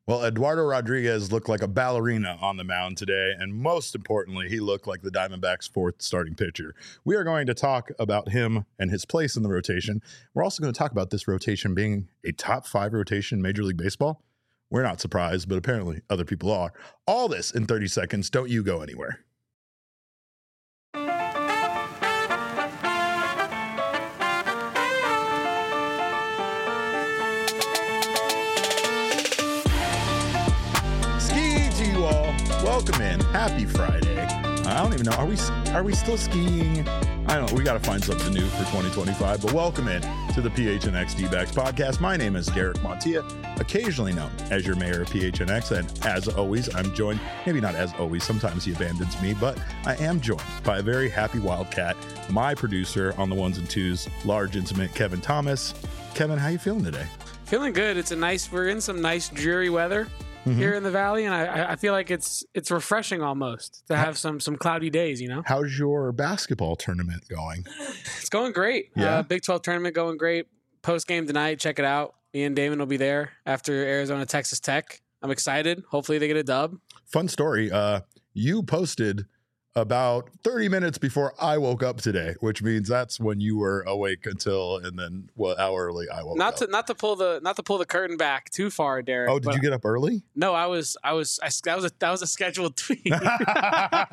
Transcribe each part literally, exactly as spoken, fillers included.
Well, Eduardo Rodriguez looked like a ballerina on the mound today, and most importantly, he looked like the Diamondbacks' fourth starting pitcher. We are going to talk about him and his place in the rotation. We're also going to talk about this rotation being a top five rotation in Major League Baseball. We're not surprised, but apparently other people are. All this in thirty seconds. Don't you go anywhere. Welcome in. Happy Friday. I don't even know. Are we are we still skiing? I don't know. We got to find something new for twenty twenty-five. But welcome in to the P H N X D-Backs podcast. My name is Derek Montilla, occasionally known as your mayor of P H N X. And as always, I'm joined, maybe not as always, sometimes he abandons me, but I am joined by a very happy Wildcat, my producer on the ones and twos, large intimate Kevin Thomas. Kevin, how you feeling today? Feeling good. It's a nice, we're in some nice dreary weather. Mm-hmm. Here in the valley, and I, I feel like it's it's refreshing almost to have some some cloudy days, you know? How's your basketball tournament going? It's going great. Yeah. Uh, Big twelve tournament going great. Post game tonight, check it out. Ian Damon will be there after Arizona, Texas Tech. I'm excited. Hopefully they get a dub. Fun story. Uh, you posted about thirty minutes before I woke up today, which means that's when you were awake until, and then what how early I woke not up. To, not to pull the not to pull the curtain back too far, Derek. Oh, did you get up early? No, I was I was I, that was a that was a scheduled tweet. I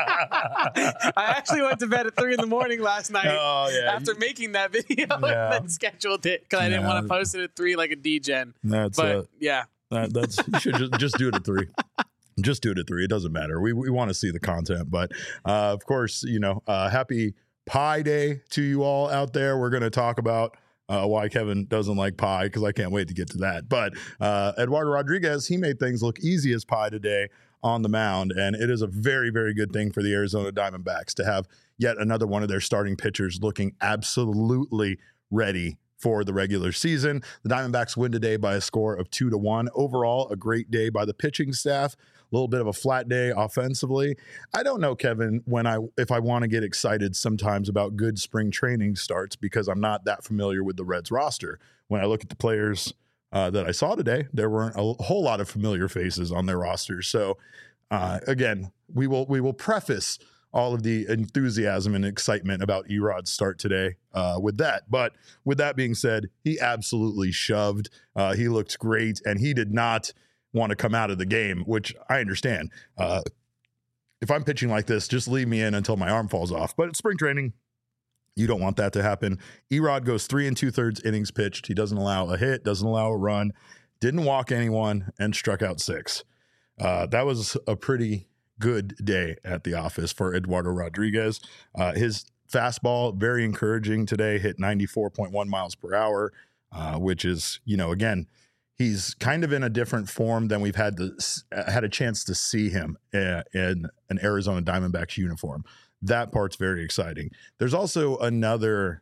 actually went to bed at three in the morning last night. Oh, yeah. After making that video, yeah. And then scheduled it because I didn't yeah. want to post it at three like a D-gen. That's but uh, yeah, that, that's you should just, just do it at three. Just do it at three. It doesn't matter. We we want to see the content. But, uh, of course, you know, uh, happy Pie Day to you all out there. We're going to talk about uh, why Kevin doesn't like pie because I can't wait to get to that. But uh, Eduardo Rodriguez, he made things look easy as pie today on the mound. And it is a very, very good thing for the Arizona Diamondbacks to have yet another one of their starting pitchers looking absolutely ready for the regular season. The Diamondbacks win today by a score of two to one. Overall, a great day by the pitching staff. A little bit of a flat day offensively. I don't know, Kevin, when I if I want to get excited sometimes about good spring training starts because I'm not that familiar with the Reds roster. When I look at the players uh, that I saw today, there weren't a whole lot of familiar faces on their rosters. So uh, again, we will we will preface all of the enthusiasm and excitement about Erod's start today uh, with that. But with that being said, he absolutely shoved. Uh, he looked great, and he did not want to come out of the game, which I understand. Uh, if I'm pitching like this, just leave me in until my arm falls off. But it's spring training. You don't want that to happen. Erod goes three and two thirds innings pitched. He doesn't allow a hit, doesn't allow a run, didn't walk anyone, and struck out six. Uh, that was a pretty good day at the office for Eduardo Rodriguez. Uh, his fastball, very encouraging today, hit ninety-four point one miles per hour, uh, which is, you know, again, he's kind of in a different form than we've had to, had a chance to see him uh, in an Arizona Diamondbacks uniform. That part's very exciting. There's also another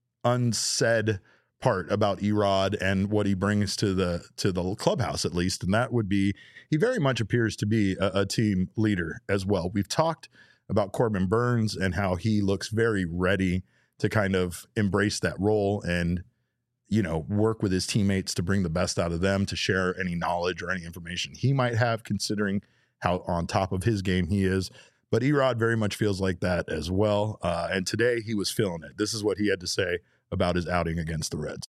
unsaid part about Erod and what he brings to the to the clubhouse, at least, and that would be he very much appears to be a, a team leader as well. We've talked about Corbin Burns and how he looks very ready to kind of embrace that role and, you know, work with his teammates to bring the best out of them, to share any knowledge or any information he might have, considering how on top of his game he is. But Erod very much feels like that as well. Uh, and today he was feeling it. This is what he had to say about his outing against the Reds.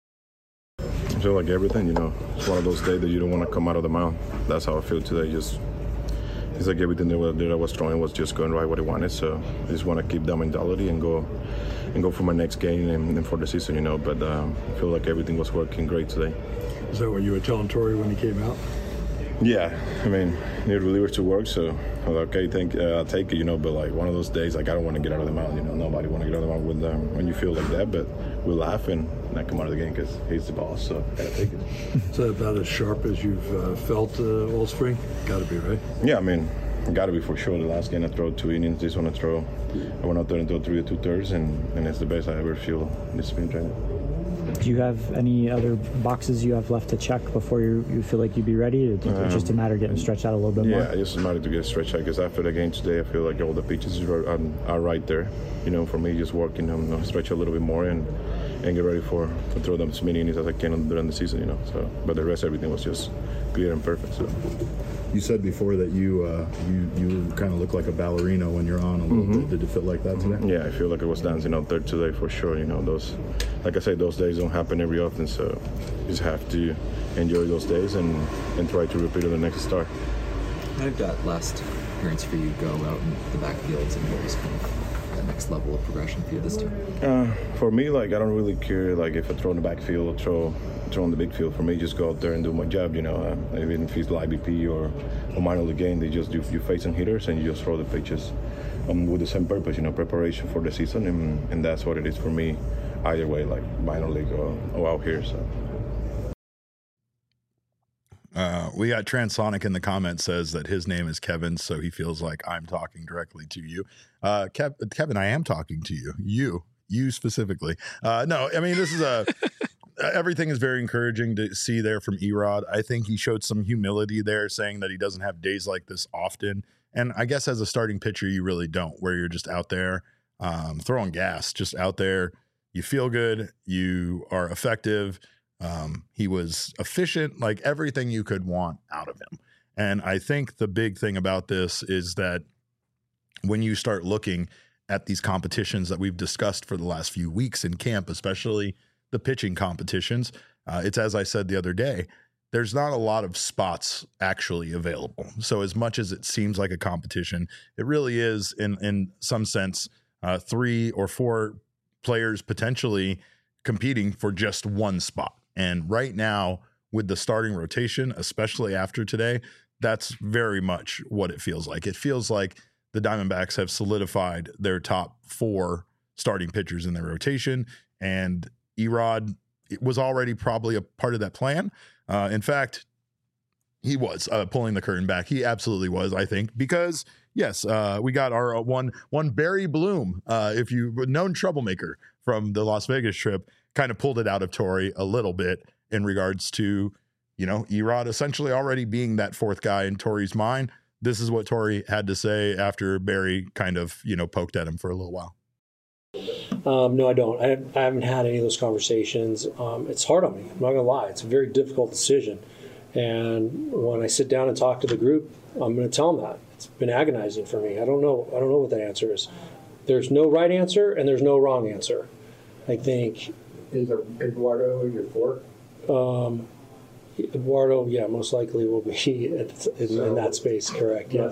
I feel like everything, you know, it's one of those days that you don't want to come out of the mound. That's how I feel today. Just it's like everything that, that I was throwing was just going right what I wanted. So I just want to keep that mentality and go and go for my next game and, and for the season, you know. But um, I feel like everything was working great today. Is that what you were telling Torrey when he came out? Yeah, I mean, need relievers to work, so I was like, okay, thank, uh, I'll take it, you know, but like one of those days, like I don't want to get out of the mound, you know, nobody want to get out of the mound with, um, when you feel like that, but we laugh and not come out of the game because he's the boss, so gotta take it. Is that about as sharp as you've uh, felt uh, all spring? Gotta be, right? Yeah, I mean, gotta be for sure. The last game I throw two innings, this one I throw, I went out there and throw three or two thirds, and, and it's the best I ever feel this spring training. Do you have any other boxes you have left to check before you, you feel like you'd be ready? It's um, just a matter of getting stretched out a little bit yeah, more? Yeah, it's just a matter to get stretched out because after the game today, I feel like all the pitches are, are, are right there. You know, for me, just working, I'm um, stretch a little bit more and and get ready for to throw them as many innings as I can during the season, you know. So, but the rest, everything was just clear and perfect. So. You said before that you uh, you you kind of look like a ballerina when you're on a little mm-hmm. bit. Did it feel like that today? Yeah, I feel like I was dancing out there today for sure. You know, those, like I said, those days don't happen every often, so you just have to enjoy those days and, and try to repeat it the next start. How did that last appearance for you go out in the backfields and what was kind of that next level of progression for you this team? Uh, for me, like I don't really care like if I throw in the backfield or throw throw in the big field. For me, just go out there and do my job. You know, uh, even if it's the I B P or a minor league game, they just do you facing hitters and you just throw the pitches um, with the same purpose. You know, preparation for the season, and, and that's what it is for me. Either way, like minor league or, or out here. So. Uh, we got Transonic in the comments says that his name is Kevin, so he feels like I'm talking directly to you. Uh, Kev, Kevin, I am talking to you. You, you specifically. Uh, no, I mean, this is a, everything is very encouraging to see there from Erod. I think he showed some humility there, saying that he doesn't have days like this often. And I guess as a starting pitcher, you really don't, where you're just out there um, throwing gas, just out there. You feel good. You are effective. Um, he was efficient, like everything you could want out of him. And I think the big thing about this is that when you start looking at these competitions that we've discussed for the last few weeks in camp, especially the pitching competitions, uh, it's as I said the other day, there's not a lot of spots actually available. So as much as it seems like a competition, it really is in, in some sense, uh, three or four players potentially competing for just one spot. And right now, with the starting rotation, especially after today, that's very much what it feels like. It feels like the Diamondbacks have solidified their top four starting pitchers in their rotation, and Erod was already probably a part of that plan. Uh, in fact, he was uh, pulling the curtain back. He absolutely was, I think, because yes, uh, we got our one one Barry Bloom, uh, if you known troublemaker from the Las Vegas trip, kind of pulled it out of Torey a little bit in regards to, you know, Erod essentially already being that fourth guy in Torey's mind. This is what Torey had to say after Barry kind of, you know, poked at him for a little while. Um, no, I don't. I, I haven't had any of those conversations. Um, it's hard on me. I'm not going to lie. It's a very difficult decision. And when I sit down and talk to the group, I'm going to tell them that. It's been agonizing for me. I don't know. I don't know what that answer is. There's no right answer and there's no wrong answer. I think. Is Eduardo your fourth? Um, Eduardo, yeah, most likely will be in, in, in that space, correct, yes.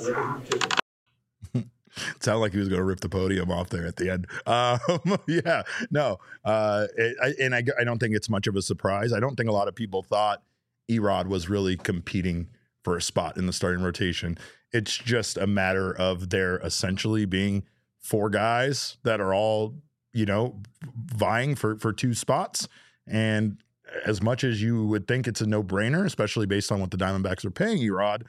It sounded like he was going to rip the podium off there at the end. Um, yeah, no. Uh, it, I, and I, I don't think it's much of a surprise. I don't think a lot of people thought Erod was really competing for a spot in the starting rotation. It's just a matter of there essentially being four guys that are all, you know, vying for, for two spots. And as much as you would think it's a no-brainer, especially based on what the Diamondbacks are paying Erod,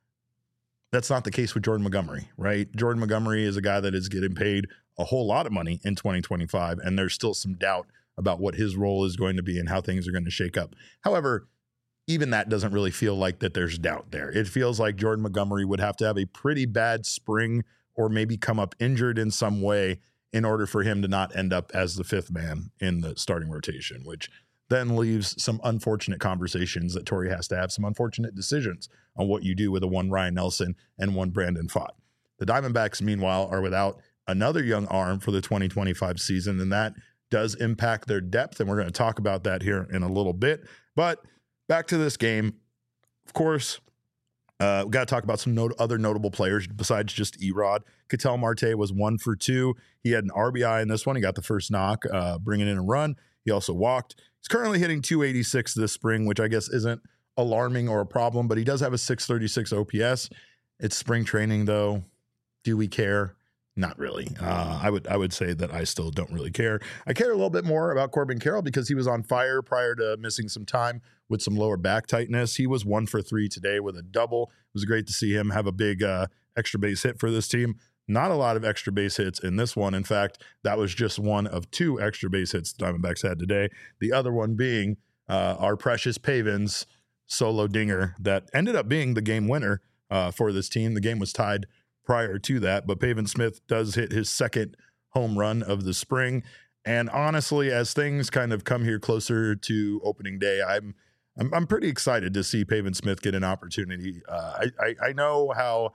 that's not the case with Jordan Montgomery, right? Jordan Montgomery is a guy that is getting paid a whole lot of money in twenty twenty-five, and there's still some doubt about what his role is going to be and how things are going to shake up. However, even that doesn't really feel like that there's doubt there. It feels like Jordan Montgomery would have to have a pretty bad spring or maybe come up injured in some way in order for him to not end up as the fifth man in the starting rotation, which then leaves some unfortunate conversations that Torey has to have, some unfortunate decisions on what you do with a one Ryan Nelson and one Brandon Pfaadt. The Diamondbacks, meanwhile, are without another young arm for the twenty twenty-five season, and that does impact their depth, and we're going to talk about that here in a little bit. But back to this game, of course, Uh, we got to talk about some not- other notable players besides just Erod. Ketel Marte was one for two. He had an R B I in this one. He got the first knock, uh, bringing in a run. He also walked. He's currently hitting two eighty-six this spring, which I guess isn't alarming or a problem, but he does have a six thirty-six O P S. It's spring training, though. Do we care? Not really. Uh, I would I would say that I still don't really care. I care a little bit more about Corbin Carroll because he was on fire prior to missing some time with some lower back tightness. He was one for three today with a double. It was great to see him have a big uh, extra base hit for this team. Not a lot of extra base hits in this one. In fact, that was just one of two extra base hits the Diamondbacks had today. The other one being uh, our precious Pavins solo dinger that ended up being the game winner uh, for this team. The game was tied prior to that, but Pavin Smith does hit his second home run of the spring. And honestly, as things kind of come here closer to opening day, I'm I'm, I'm pretty excited to see Pavin Smith get an opportunity. Uh, I, I I know how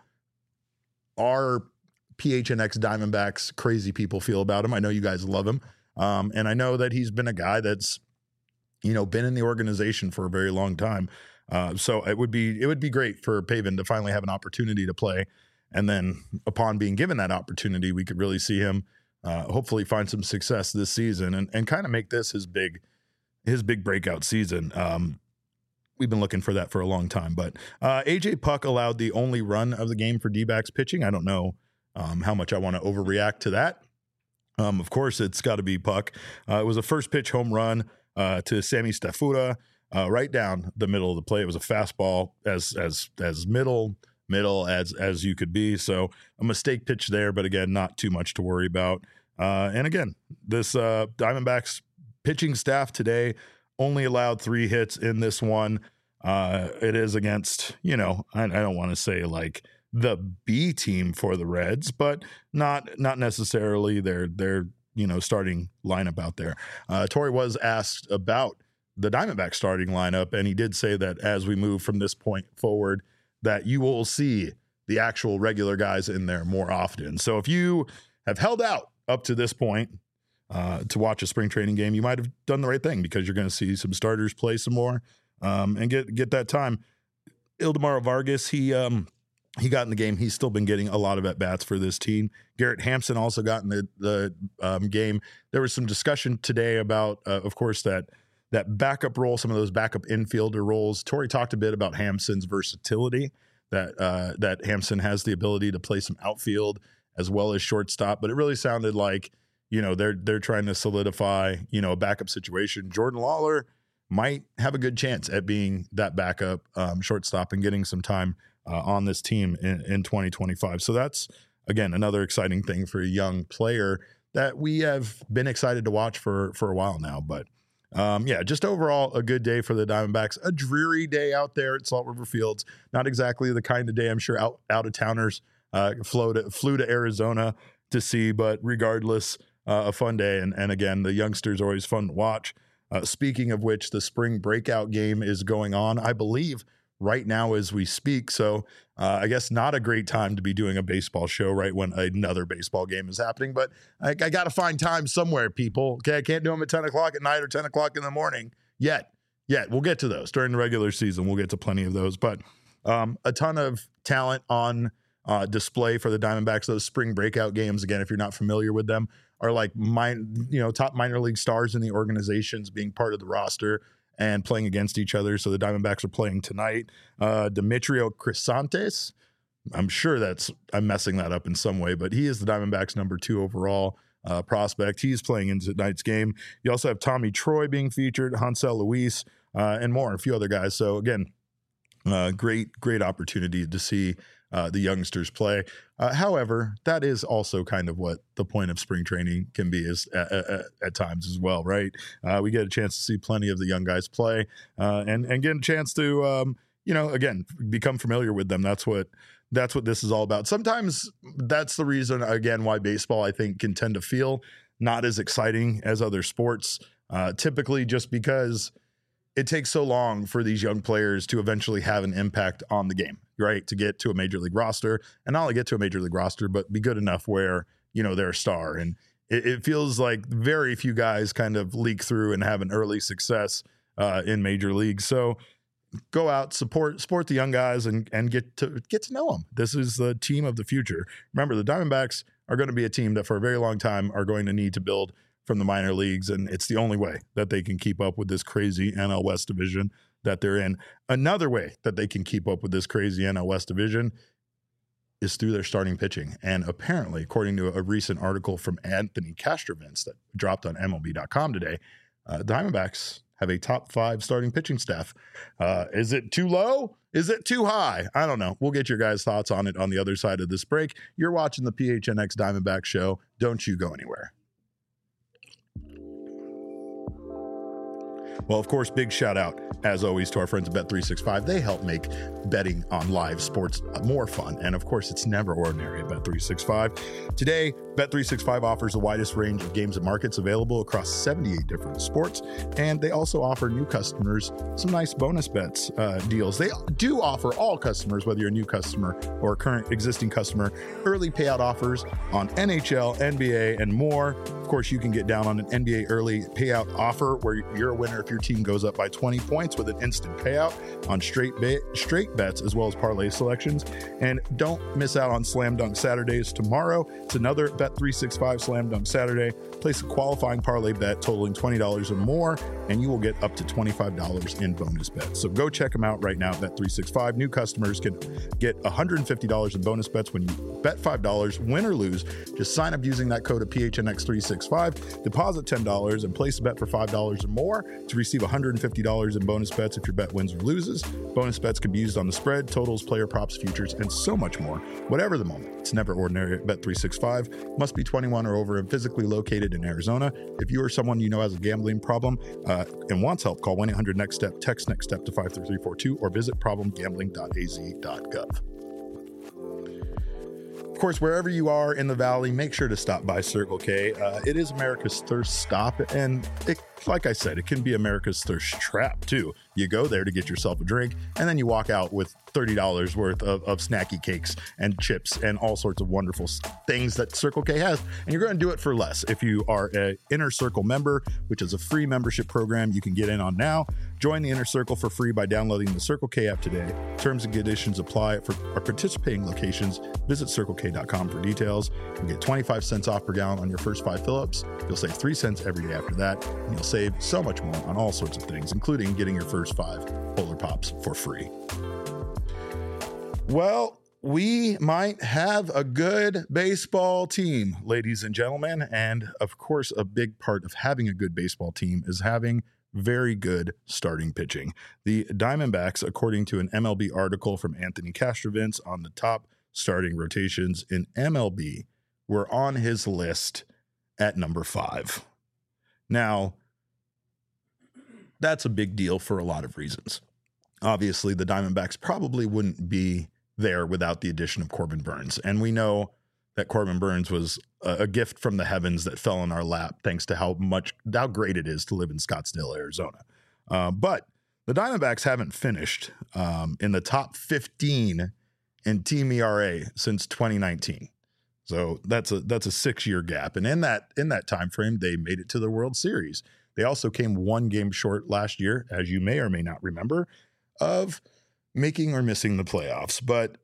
our P H N X Diamondbacks crazy people feel about him. I know you guys love him, um, and I know that he's been a guy that's you know been in the organization for a very long time. Uh, so it would be it would be great for Pavin to finally have an opportunity to play, and then upon being given that opportunity, we could really see him uh, hopefully find some success this season and and kind of make this his big his big breakout season. Um, we've been looking for that for a long time, but uh, A J Puck allowed the only run of the game for D-backs pitching. I don't know um, how much I want to overreact to that. Um, of course, it's got to be Puck. Uh, it was a first pitch home run uh, to Sammy Stafura. Uh, right down the middle of the plate. It was a fastball as as as middle middle as as you could be. So a mistake pitch there, but again, not too much to worry about. Uh, and again, this uh, Diamondbacks pitching staff today only allowed three hits in this one. Uh, it is against, you know, I, I don't want to say like the B team for the Reds, but not not necessarily their their you know starting lineup out there. Uh, Torey was asked about the Diamondback starting lineup, and he did say that as we move from this point forward, that you will see the actual regular guys in there more often. So if you have held out up to this point uh, to watch a spring training game, you might have done the right thing because you're going to see some starters play some more um, and get get that time. Ildemaro Vargas, he um, he got in the game. He's still been getting a lot of at bats for this team. Garrett Hampson also got in the the um, game. There was some discussion today about, uh, of course, that. that backup role, some of those backup infielder roles. Torey talked a bit about Hampson's versatility, that uh, that Hampson has the ability to play some outfield as well as shortstop, but it really sounded like, you know, they're they're trying to solidify, you know, a backup situation. Jordan Lawler might have a good chance at being that backup um, shortstop and getting some time uh, on this team in, in twenty twenty-five. So that's, again, another exciting thing for a young player that we have been excited to watch for, for a while now, but Um, yeah, just overall a good day for the Diamondbacks. A dreary day out there at Salt River Fields. Not exactly the kind of day I'm sure out out of towners uh, flew to flew to Arizona to see, but regardless, uh, a fun day. And and again, the youngsters are always fun to watch. Uh, speaking of which, the spring breakout game is going on, I believe, right now as we speak. So uh, I guess not a great time to be doing a baseball show right when another baseball game is happening, but I, I got to find time somewhere, people. Okay, I can't do them at ten o'clock at night or ten o'clock in the morning yet. Yet we'll get to those during the regular season. We'll get to plenty of those, but um, a ton of talent on uh, display for the Diamondbacks. Those spring breakout games, again, if you're not familiar with them, are like mine, you know, top minor league stars in the organizations being part of the roster and playing against each other. So the Diamondbacks are playing tonight. Uh, Demetrio Crisantes, I'm sure that's, I'm messing that up in some way, but he is the Diamondbacks number two overall uh, prospect. He's playing in tonight's game. You also have Tommy Troy being featured, Hansel Luis, uh, and more, a few other guys. So again, uh, great, great opportunity to see uh, the youngsters play. Uh, however, that is also kind of what the point of spring training can be is at, at, at times as well, right? Uh, we get a chance to see plenty of the young guys play uh, and, and get a chance to, um, you know, again, become familiar with them. That's what, that's what this is all about. Sometimes that's the reason, again, why baseball, I think, can tend to feel not as exciting as other sports, uh, typically just because it takes so long for these young players to eventually have an impact on the game, right? To get to a major league roster, and not only get to a major league roster, but be good enough where, you know, they're a star. And it, it feels like very few guys kind of leak through and have an early success uh, in major leagues. So go out, support, support the young guys and, and get to get to know them. This is the team of the future. Remember, the Diamondbacks are going to be a team that for a very long time are going to need to build from the minor leagues, and it's the only way that they can keep up with this crazy N L West division that they're in. Another way that they can keep up with this crazy N L West division is through their starting pitching. And apparently, according to a recent article from Anthony Castrovince that dropped on M L B dot com today, uh, Diamondbacks have a top five starting pitching staff. Uh, is it too low? Is it too high? I don't know. We'll get your guys' thoughts on it on the other side of this break. You're watching the P H N X Diamondback Show. Don't you go anywhere. Well, of course, big shout out, as always, to our friends at Bet three sixty-five. They help make betting on live sports more fun. And of course, it's never ordinary at Bet three sixty-five. Today, Bet three sixty-five offers the widest range of games and markets available across seventy-eight different sports. And they also offer new customers some nice bonus bets uh, deals. They do offer all customers, whether you're a new customer or a current existing customer, early payout offers on N H L, N B A, and more. Of course, you can get down on an N B A early payout offer where you're a winner if your team goes up by twenty points with an instant payout on straight ba- straight bets as well as parlay selections. And don't miss out on Slam Dunk Saturdays tomorrow. It's another Bet three sixty-five Slam Dunk Saturday. Place a qualifying parlay bet totaling twenty dollars or more, and you will get up to twenty-five dollars in bonus bets. So go check them out right now, Bet three sixty-five. New customers can get one hundred fifty dollars in bonus bets when you bet five dollars, win or lose. Just sign up using that code of P H N X three sixty-five, deposit ten dollars, and place a bet for five dollars or more to receive one hundred fifty dollars in bonus bets if your bet wins or loses. Bonus bets can be used on the spread, totals, player props, futures, and so much more. Whatever the moment, it's never ordinary at Bet three sixty-five. Must be twenty-one or over and physically located in Arizona. If you or someone you know has a gambling problem uh, and wants help, call one eight hundred next step, text next step to five three three four two, or visit problem gambling dot a z dot gov. Of course, wherever you are in the Valley, make sure to stop by Circle K. Uh, it is America's thirst stop, and it, like I said, it can be America's thirst trap, too. You go there to get yourself a drink, and then you walk out with thirty dollars worth of, of snacky cakes and chips and all sorts of wonderful things that Circle K has. And you're going to do it for less. If you are an Inner Circle member, which is a free membership program you can get in on now, join the Inner Circle for free by downloading the Circle K app today. Terms and conditions apply for our participating locations. Visit circle k dot com for details. You'll get twenty-five cents off per gallon on your first five fill-ups. You'll save three cents every day after that. And you'll save so much more on all sorts of things, including getting your first five Polar Pops for free. Well, we might have a good baseball team, ladies and gentlemen. And of course, a big part of having a good baseball team is having very good starting pitching. The Diamondbacks, according to an M L B article from Anthony Castrovince on the top starting rotations in M L B, were on his list at number five. Now, that's a big deal for a lot of reasons. Obviously, the Diamondbacks probably wouldn't be there without the addition of Corbin Burnes. And we know that Corbin Burnes was a, a gift from the heavens that fell in our lap, thanks to how much, how great it is to live in Scottsdale, Arizona. Uh, but the Diamondbacks haven't finished um, in the top fifteen in team E R A since twenty nineteen. So that's a that's a six-year gap. And in that in that time frame, they made it to the World Series. They also came one game short last year, as you may or may not remember, of making or missing the playoffs. But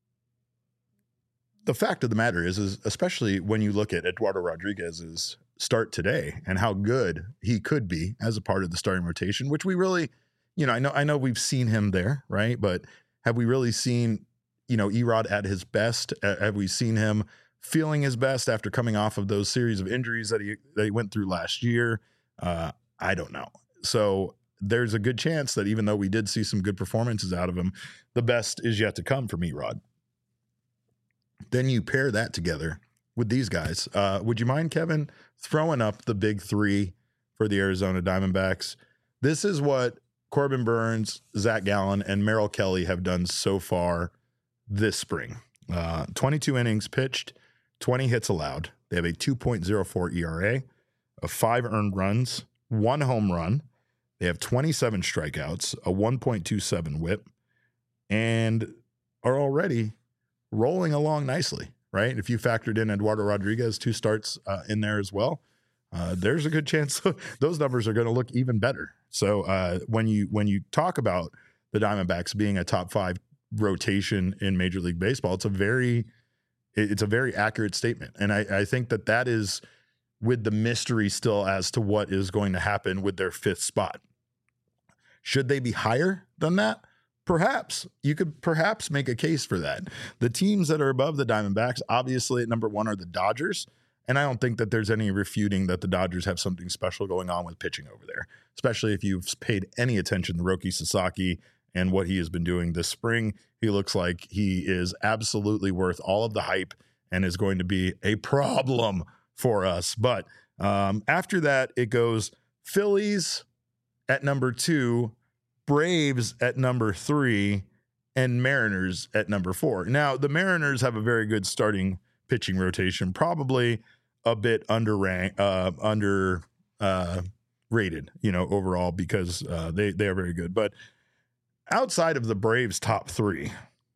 the fact of the matter is, is especially when you look at Eduardo Rodriguez's start today and how good he could be as a part of the starting rotation, which we really, you know, I know I know we've seen him there, right? But have we really seen, you know, Erod at his best? Uh, have we seen him feeling his best after coming off of those series of injuries that he that he went through last year? Uh, I don't know. So there's a good chance that even though we did see some good performances out of him, the best is yet to come from Erod. Then you pair that together with these guys. Uh, would you mind, Kevin, throwing up the big three for the Arizona Diamondbacks? This is what Corbin Burnes, Zach Gallen, and Merrill Kelly have done so far this spring. Uh, twenty-two innings pitched, twenty hits allowed. They have a two point oh four E R A, of five earned runs, one home run. They have twenty-seven strikeouts, a one point two seven whip, and are already rolling along nicely, right? If you factored in Eduardo Rodriguez, two starts uh, in there as well, uh, there's a good chance those numbers are going to look even better. So uh, when you when you talk about the Diamondbacks being a top five rotation in Major League Baseball, it's a very it's a very accurate statement, and I, I think that that is with the mystery still as to what is going to happen with their fifth spot. Should they be higher than that? Perhaps. You could perhaps make a case for that. The teams that are above the Diamondbacks, obviously at number one, are the Dodgers. And I don't think that there's any refuting that the Dodgers have something special going on with pitching over there, especially if you've paid any attention to Roki Sasaki and what he has been doing this spring. He looks like he is absolutely worth all of the hype and is going to be a problem for us. But um, after that, it goes Phillies at number two, Braves at number three, and Mariners at number four. Now, the Mariners have a very good starting pitching rotation, probably a bit under rank, uh, under uh, rated, you know, overall because uh, they they are very good. But outside of the Braves' top three,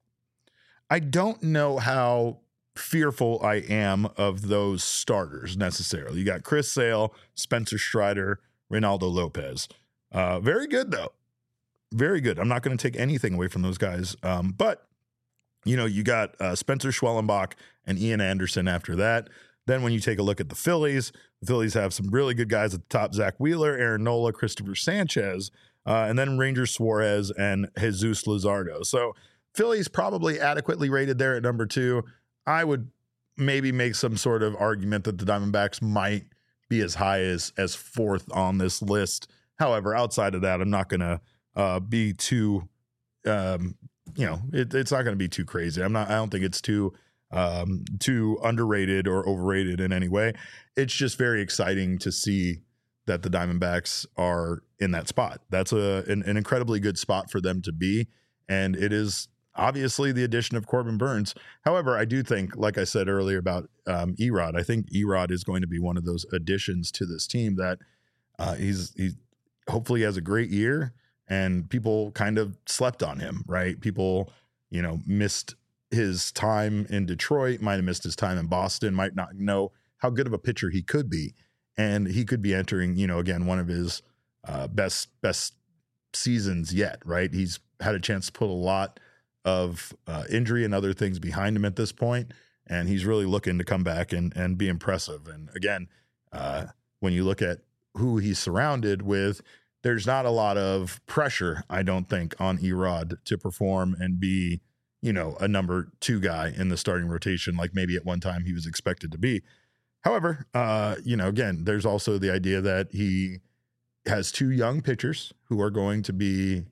I don't know how fearful I am of those starters necessarily. You got Chris Sale, Spencer Strider, Reynaldo Lopez. Uh, very good though. Very good. I'm not going to take anything away from those guys. Um, but, you know, you got uh, Spencer Schwellenbach and Ian Anderson after that. Then when you take a look at the Phillies, the Phillies have some really good guys at the top. Zach Wheeler, Aaron Nola, Christopher Sanchez, uh, and then Ranger Suarez and Jesus Luzardo. So Phillies probably adequately rated there at number two. I would maybe make some sort of argument that the Diamondbacks might be as high as, as fourth on this list. However, outside of that, I'm not going to Uh, be too, um, you know, it, it's not going to be too crazy. I'm not, I don't think it's too, um, too underrated or overrated in any way. It's just very exciting to see that the Diamondbacks are in that spot. That's a, an, an incredibly good spot for them to be. And it is obviously the addition of Corbin Burnes. However, I do think, like I said earlier about um, Erod, I think Erod is going to be one of those additions to this team that uh, he's, he hopefully has a great year. And people kind of slept on him, right? People, you know, missed his time in Detroit, might have missed his time in Boston, might not know how good of a pitcher he could be. And he could be entering, you know, again, one of his uh, best best seasons yet, right? He's had a chance to put a lot of uh, injury and other things behind him at this point, and he's really looking to come back and, and be impressive. And again, uh, when you look at who he's surrounded with, there's not a lot of pressure, I don't think, on Erod to perform and be, you know, a number two guy in the starting rotation, like maybe at one time he was expected to be. However, uh, you know, again, there's also the idea that he has two young pitchers who are going to be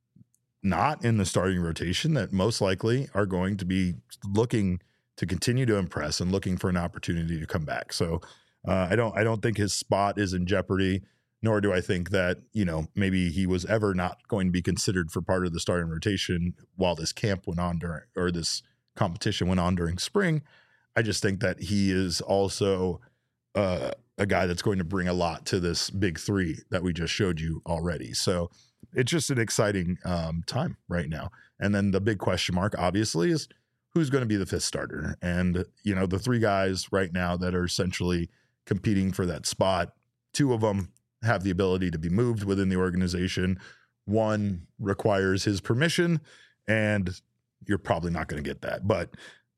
not in the starting rotation that most likely are going to be looking to continue to impress and looking for an opportunity to come back. So uh, I don't, I don't think his spot is in jeopardy. Nor do I think that, you know, maybe he was ever not going to be considered for part of the starting rotation while this camp went on during, or this competition went on during spring. I just think that he is also uh, a guy that's going to bring a lot to this big three that we just showed you already. So it's just an exciting um, time right now. And then the big question mark, obviously, is who's going to be the fifth starter. And, you know, the three guys right now that are essentially competing for that spot, two of them have the ability to be moved within the organization. One requires his permission, and you're probably not going to get that. But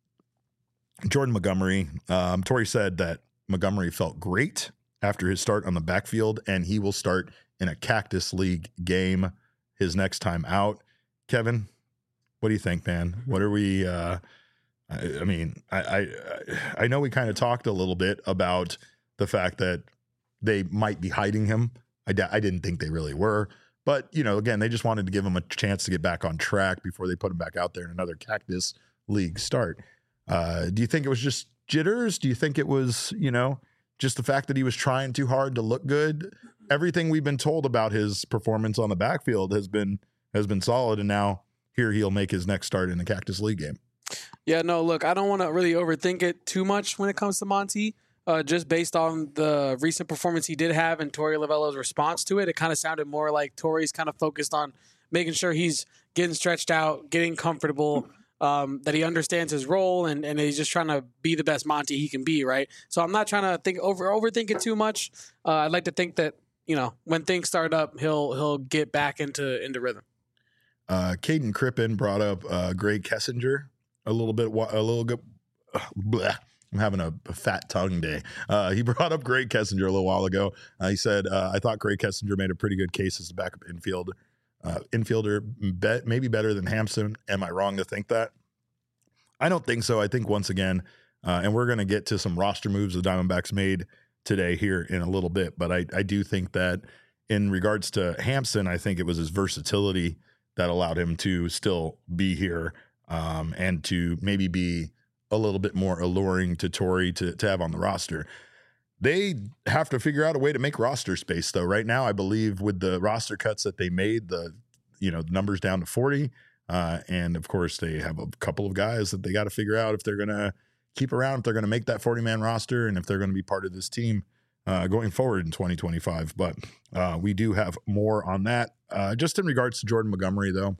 Jordan Montgomery, um, Torey said that Montgomery felt great after his start on the backfield, and he will start in a Cactus League game his next time out. Kevin, what do you think, man? What are we? Uh, I, I mean, I, I I know we kind of talked a little bit about the fact that they might be hiding him. I, d- I didn't think they really were. But, you know, again, they just wanted to give him a chance to get back on track before they put him back out there in another Cactus League start. Uh, do you think it was just jitters? Do you think it was, you know, just the fact that he was trying too hard to look good? Everything we've been told about his performance on the backfield has been has been solid, and now here he'll make his next start in the Cactus League game. Yeah, no, look, I don't want to really overthink it too much when it comes to Monty. Uh, just based on the recent performance he did have and Torey Lovullo's response to it, it kind of sounded more like Torey's kind of focused on making sure he's getting stretched out, getting comfortable, um, that he understands his role, and, and he's just trying to be the best Monty he can be, right? So I'm not trying to think over overthink it too much. Uh, I'd like to think that, you know, when things start up, he'll he'll get back into into rhythm. Uh, Caden Crippen brought up uh, Greg Kessinger a little bit, a little bit. Uh, bleh. I'm having a, a fat tongue day. Uh, he brought up Greg Kessinger a little while ago. Uh, he said, uh, I thought Greg Kessinger made a pretty good case as a backup infield, uh, infielder, bet, maybe better than Hampson. Am I wrong to think that? I don't think so. I think once again, uh, and we're going to get to some roster moves the Diamondbacks made today here in a little bit, but I, I do think that in regards to Hampson, I think it was his versatility that allowed him to still be here um, and to maybe be a little bit more alluring to Torey to, to have on the roster. They have to figure out a way to make roster space, though. Right now, I believe with the roster cuts that they made, the you know numbers down to forty, uh, and of course they have a couple of guys that they got to figure out if they're going to keep around, if they're going to make that forty-man roster, and if they're going to be part of this team uh, going forward in twenty twenty-five. But uh, we do have more on that. Uh, just in regards to Jordan Montgomery, though,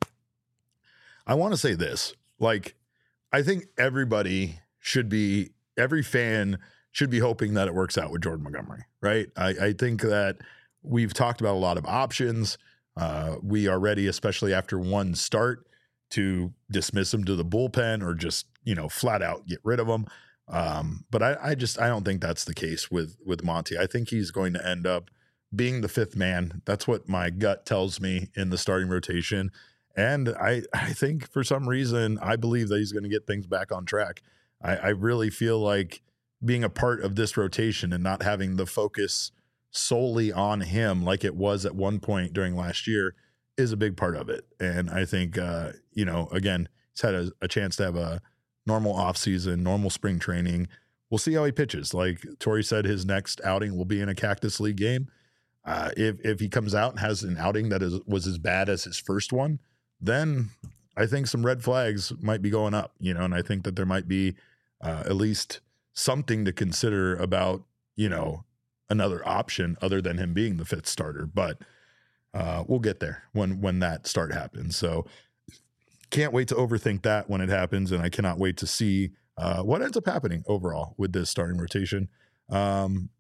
I want to say this: like, I think everybody should be, every fan should be hoping that it works out with Jordan Montgomery, right? I, I think that we've talked about a lot of options. Uh, we are ready, especially after one start, to dismiss him to the bullpen or just, you know, flat out get rid of him. Um, but I, I just, I don't think that's the case with, with Monty. I think he's going to end up being the fifth man. That's what my gut tells me in the starting rotation. And I, I think for some reason, I believe that he's going to get things back on track. I, I really feel like being a part of this rotation and not having the focus solely on him like it was at one point during last year is a big part of it. And I think, uh, you know, again, he's had a, a chance to have a normal offseason, normal spring training. We'll see how he pitches. Like Torey said, his next outing will be in a Cactus League game. Uh, if if he comes out and has an outing that is was as bad as his first one, then I think some red flags might be going up, you know, and I think that there might be uh, at least something to consider about, you know, another option other than him being the fifth starter. But uh, we'll get there when when that start happens. So can't wait to overthink that when it happens, and I cannot wait to see uh, what ends up happening overall with this starting rotation. Um,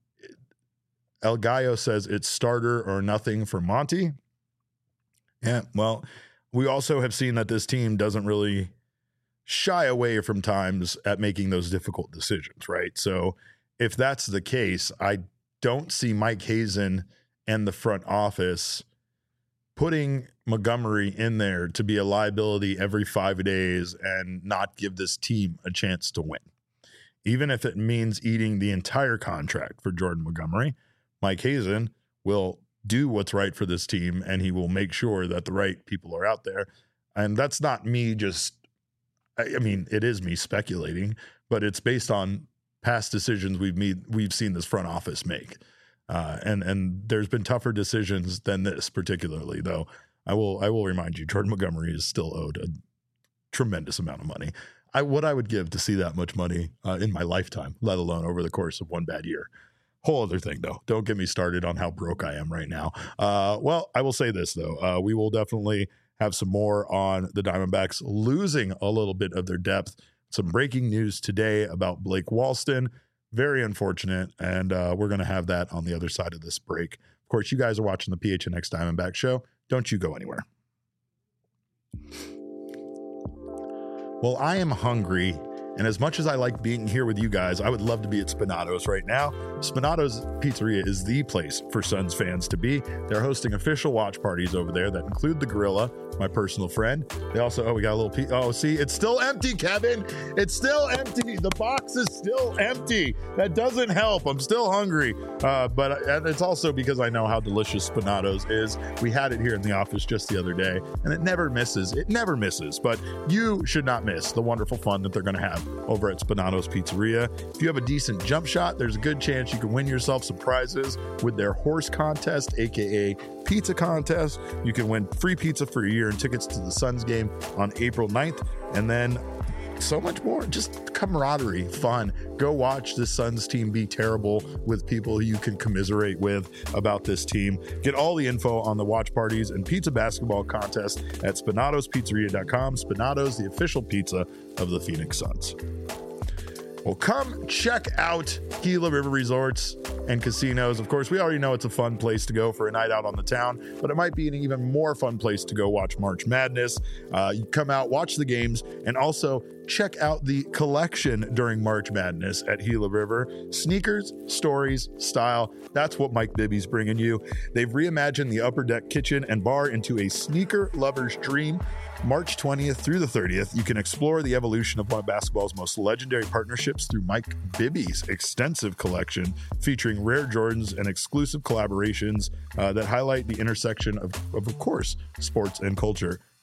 El Gallo says it's starter or nothing for Monty. Yeah, well, we also have seen that this team doesn't really shy away from times at making those difficult decisions, right? So if that's the case, I don't see Mike Hazen and the front office putting Montgomery in there to be a liability every five days and not give this team a chance to win. Even if it means eating the entire contract for Jordan Montgomery, Mike Hazen will do what's right for this team, and he will make sure that the right people are out there. And that's not me just, I mean, it is me speculating, but it's based on past decisions we've made, we've seen this front office make. Uh, and and there's been tougher decisions than this particularly, though. I will I will remind you, Jordan Montgomery is still owed a tremendous amount of money. I what I would give to see that much money uh, in my lifetime, let alone over the course of one bad year. Whole other thing, though. Don't get me started on how broke I am right now. Uh, well, I will say this, though. Uh, we will definitely have some more on the Diamondbacks losing a little bit of their depth. Some breaking news today about Blake Walston. Very unfortunate, and uh, we're going to have that on the other side of this break. Of course, you guys are watching the P H N X Diamondback Show. Don't you go anywhere. Well, I am hungry, and as much as I like being here with you guys, I would love to be at Spinato's right now. Spinato's Pizzeria is the place for Suns fans to be. They're hosting official watch parties over there that include the Gorilla, my personal friend. They also, oh, we got a little, pe- oh, see, it's still empty, Kevin. It's still empty. The box is still empty. That doesn't help. I'm still hungry. Uh, but and it's also because I know how delicious Spinato's is. We had it here in the office just the other day, and it never misses. It never misses. But you should not miss the wonderful fun that they're going to have over at Spinato's Pizzeria. If you have a decent jump shot, there's a good chance you can win yourself some prizes with their horse contest, aka pizza contest. You can win free pizza for a year and tickets to the Suns game on April ninth, and then so much more. Just camaraderie, fun. Go watch the Suns team be terrible with people you can commiserate with about this team. Get all the info on the watch parties and pizza basketball contest at spinatos pizzeria dot com. Spinato's, the official pizza of the Phoenix Suns. Well, come check out Gila River Resorts and Casinos. Of course, we already know it's a fun place to go for a night out on the town, but it might be an even more fun place to go watch March Madness. Uh, you come out, watch the games, and also check out the collection during March Madness at Gila River. Sneakers, stories, style. That's what Mike Bibby's bringing you. They've reimagined the Upper Deck kitchen and bar into a sneaker lover's dream. March twentieth through the thirtieth, you can explore the evolution of one of basketball's most legendary partnerships through Mike Bibby's extensive collection featuring rare Jordans and exclusive collaborations uh, that highlight the intersection of, of, of course, sports and culture.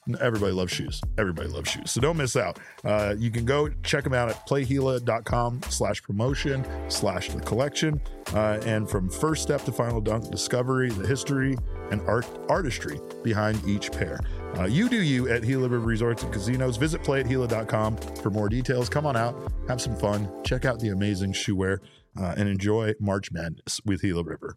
everybody loves shoes. Everybody loves shoes. So don't miss out. Uh, you can go check them out at playhela.com slash promotion slash the collection. Uh, and from first step to final dunk, discovery, the history, and art artistry behind each pair. Uh, you do you at Gila River Resorts and Casinos. Visit play at gila dot com for more details. Come on out, have some fun, check out the amazing shoe wear, uh, and enjoy March Madness with Gila River.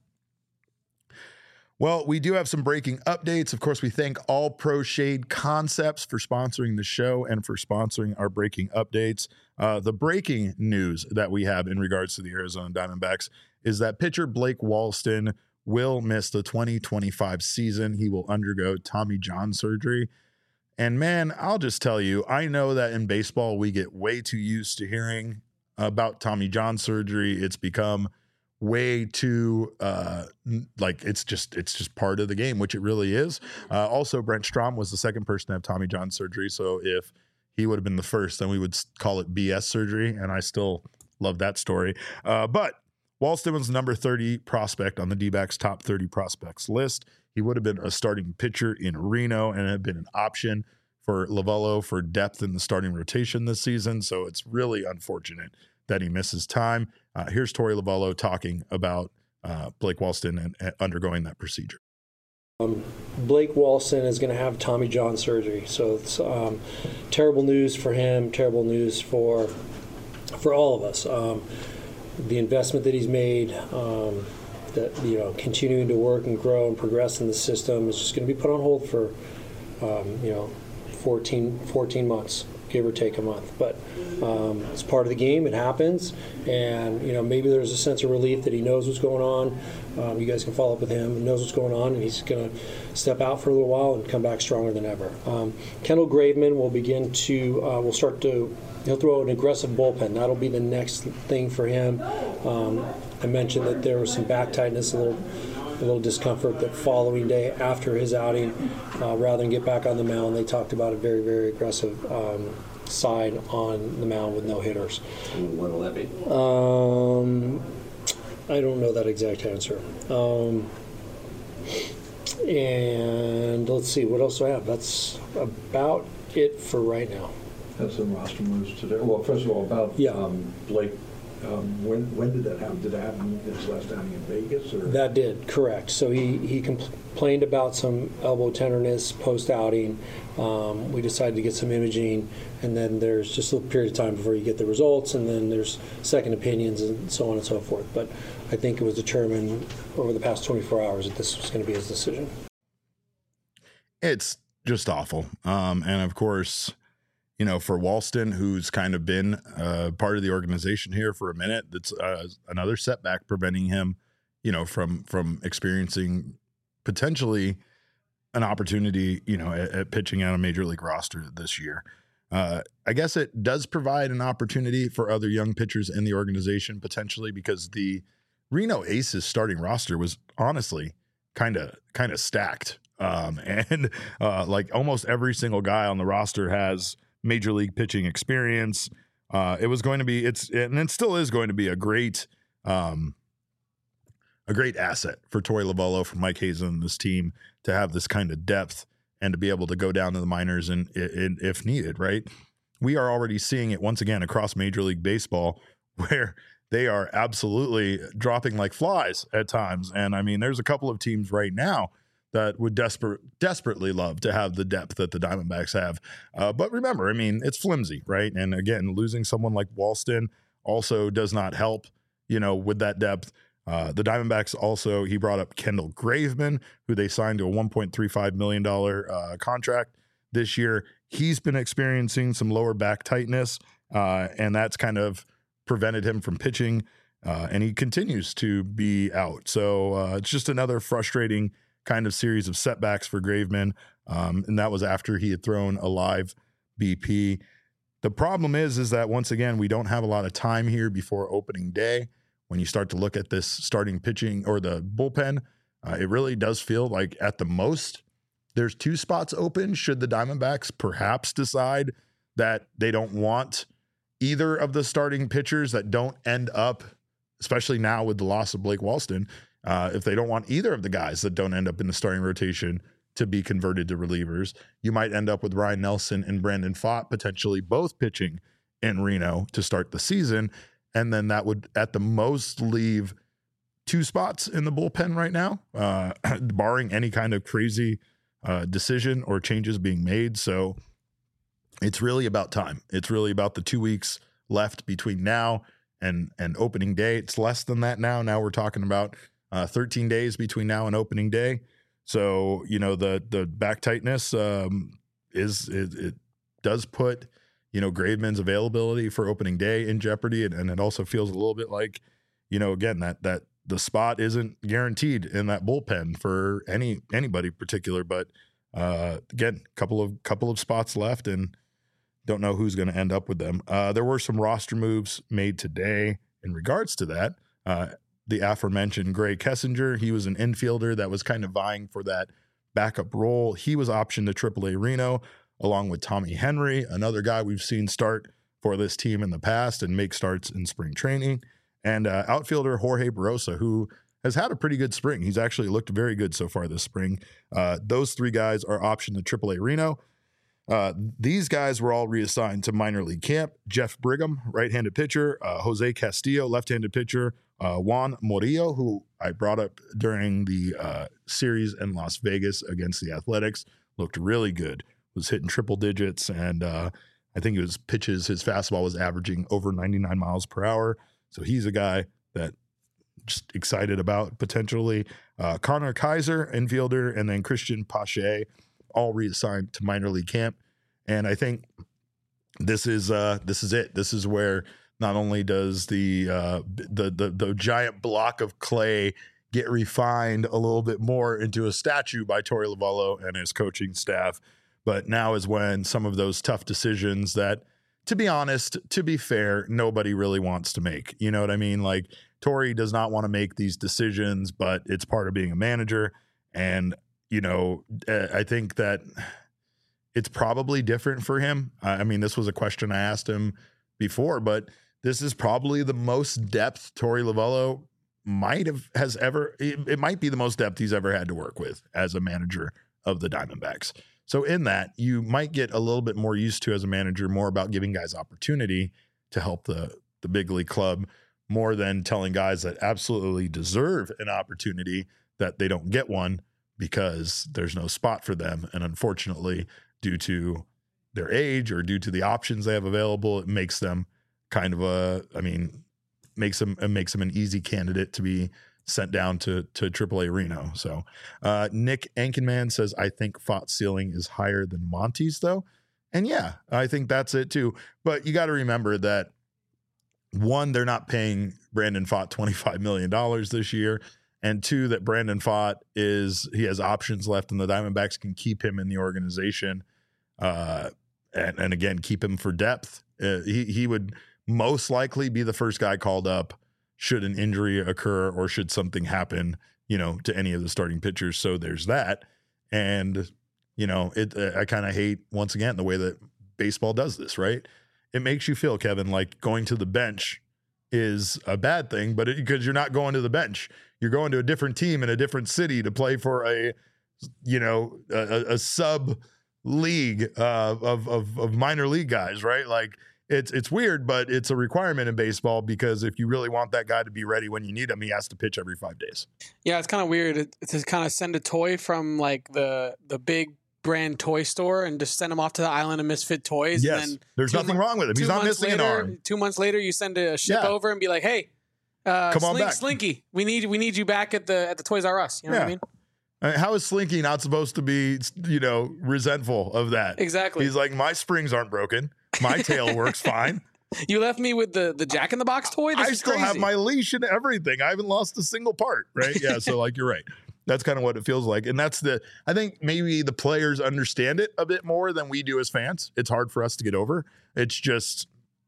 Well, we do have some breaking updates. Of course, we thank All Pro Shade Concepts for sponsoring the show and for sponsoring our breaking updates. Uh, the breaking news that we have in regards to the Arizona Diamondbacks is that pitcher Blake Walston will miss the twenty twenty-five season. He will undergo Tommy John surgery. And man, I'll just tell you, I know that in baseball, we get way too used to hearing about Tommy John surgery. It's become way too uh like it's just it's just part of the game, which it really is. Uh also, Brent Strom was the second person to have Tommy John surgery, so if he would have been the first, then we would call it B S surgery, and I still love that story. Uh but Walston was number thirty prospect on the D-backs top thirty prospects list. He would have been a starting pitcher in Reno and had been an option for Lovullo for depth in the starting rotation this season, so it's really unfortunate that he misses time. Uh, here's Torey Lovullo talking about uh, Blake Walston and, and undergoing that procedure. Um, Blake Walston is going to have Tommy John surgery, so it's um, terrible news for him, terrible news for for all of us. Um, the investment that he's made, um, that you know, continuing to work and grow and progress in the system is just going to be put on hold for um, you know fourteen, fourteen months. Give or take a month, but um, it's part of the game. It happens, and you know maybe there's a sense of relief that he knows what's going on. Um, you guys can follow up with him. He knows what's going on, and he's going to step out for a little while and come back stronger than ever. Um, Kendall Graveman will begin to uh, will start to he'll throw an aggressive bullpen. That'll be the next thing for him. Um, I mentioned that there was some back tightness, a little. a little discomfort that following day after his outing, uh, rather than get back on the mound, they talked about a very, very aggressive um, side on the mound with no hitters. What will that be? Um, I don't know that exact answer. Um, and let's see, what else do I have? That's about it for right now. Have some roster moves today. Well, first of all, about Yeah. um, Blake. Um, when when did that happen? Did it happen his last outing in Vegas? Or? That did, correct. So he, he complained about some elbow tenderness post-outing. Um, we decided to get some imaging, and then there's just a little period of time before you get the results, and then there's second opinions and so on and so forth. But I think it was determined over the past twenty-four hours that this was going to be his decision. It's just awful. Um, and of course, you know, for Walston, who's kind of been uh, part of the organization here for a minute, that's uh, another setback preventing him, you know, from from experiencing potentially an opportunity, you know, at, at pitching on a major league roster this year. Uh, I guess it does provide an opportunity for other young pitchers in the organization potentially, because the Reno Aces starting roster was honestly kind of kind of stacked, um, and uh, like almost every single guy on the roster has major league pitching experience. Uh, it was going to be, it's, and it still is going to be a great, um, a great asset for Torey Lovullo, for Mike Hazen and this team to have this kind of depth and to be able to go down to the minors and, and if needed, right? We are already seeing it once again across Major League Baseball, where they are absolutely dropping like flies at times. And I mean, there's a couple of teams right now that would desperate, desperately love to have the depth that the Diamondbacks have. Uh, but remember, I mean, it's flimsy, right? And again, losing someone like Walston also does not help, you know, with that depth. Uh, the Diamondbacks also, he brought up Kendall Graveman, who they signed to a one point three five million dollars uh, contract this year. He's been experiencing some lower back tightness, uh, and that's kind of prevented him from pitching, uh, and he continues to be out. So uh, it's just another frustrating kind of series of setbacks for Graveman, um, and that was after he had thrown a live B P. The problem is, is that once again, we don't have a lot of time here before opening day. When you start to look at this starting pitching or the bullpen, uh, it really does feel like at the most there's two spots open. Should the Diamondbacks perhaps decide that they don't want either of the starting pitchers that don't end up, especially now with the loss of Blake Walston, Uh, if they don't want either of the guys that don't end up in the starting rotation to be converted to relievers. You might end up with Ryan Nelson and Brandon Pfaadt potentially both pitching in Reno to start the season. And then that would at the most leave two spots in the bullpen right now, uh, barring any kind of crazy uh, decision or changes being made. So it's really about time. It's really about the two weeks left between now and, and opening day. It's less than that now. Now we're talking about uh, thirteen days between now and opening day. So, you know, the the back tightness um, is it, it does put, you know, Graveman's availability for opening day in jeopardy. And, and it also feels a little bit like, you know, again, that that the spot isn't guaranteed in that bullpen for any anybody particular. But uh, again, couple of couple of spots left and don't know who's going to end up with them. Uh, there were some roster moves made today in regards to that. Uh, the aforementioned Gray Kessinger, he was an infielder that was kind of vying for that backup role. He was optioned to triple A Reno, along with Tommy Henry, another guy we've seen start for this team in the past and make starts in spring training. And uh, outfielder Jorge Barosa, who has had a pretty good spring. He's actually looked very good so far this spring. Uh, those three guys are optioned to triple A Reno. Uh, these guys were all reassigned to minor league camp. Jeff Brigham, right-handed pitcher. Uh, Jose Castillo, left-handed pitcher. Uh, Juan Murillo, who I brought up during the uh, series in Las Vegas against the Athletics, looked really good. Was hitting triple digits, and uh, I think it was pitches. His fastball was averaging over ninety-nine miles per hour. So he's a guy that just excited about potentially. Uh, Connor Kaiser, infielder, and then Christian Pache, all reassigned to minor league camp. And I think this is uh, this is it. This is where not only does the uh, the, the the giant block of clay get refined a little bit more into a statue by Torey Lovullo and his coaching staff, but now is when some of those tough decisions that, to be honest, to be fair, nobody really wants to make. You know what I mean? Like, Torey does not want to make these decisions, but it's part of being a manager. And, you know, I think that it's probably different for him. I mean, this was a question I asked him before, but this is probably the most depth Torey Lovullo might have has ever, it, it might be the most depth he's ever had to work with as a manager of the Diamondbacks. So in that, you might get a little bit more used to as a manager, more about giving guys opportunity to help the, the big league club, more than telling guys that absolutely deserve an opportunity that they don't get one because there's no spot for them. And unfortunately, due to their age or due to the options they have available, it makes them kind of a, I mean, makes them, it makes them an easy candidate to be sent down to to triple A Reno. So uh, Nick Ankenman says, I think Pfaadt's ceiling is higher than Monty's, though. And yeah, I think that's it too. But you got to remember that, one, they're not paying Brandon Pfaadt twenty-five million dollars this year. And two, that Brandon Pfaadt is, he has options left and the Diamondbacks can keep him in the organization. Uh, and, and again, keep him for depth. Uh, he, he would most likely be the first guy called up should an injury occur or should something happen, you know, to any of the starting pitchers. So there's that. And, you know, it, uh, I kind of hate, once again, the way that baseball does this, right? It makes you feel, Kevin, like going to the bench is a bad thing, but because you're not going to the bench, you're going to a different team in a different city to play for a, you know, a, a sub league uh, of, of, of minor league guys, right? Like, It's it's weird, but it's a requirement in baseball because if you really want that guy to be ready when you need him, he has to pitch every five days. Yeah, it's kind of weird to, to kind of send a toy from like the the big brand toy store and just send him off to the island of misfit toys. Yes, and then there's nothing mo- wrong with him. He's not missing later, an arm. Two months later, you send a ship Yeah. over and be like, "Hey, uh, Come on Slink, back. Slinky, we need we need you back at the at the Toys R Us." You know Yeah. what I mean? I mean, how is Slinky not supposed to be, you know, resentful of that? Exactly. He's like, my springs aren't broken. My tail works fine. You left me with the the Jack in the Box toy. This I is still crazy. have my leash and everything. I haven't lost a single part, right? Yeah, so like you're right. That's kind of what it feels like. And that's the, I think maybe the players understand it a bit more than we do as fans. It's hard for us to get over. It's just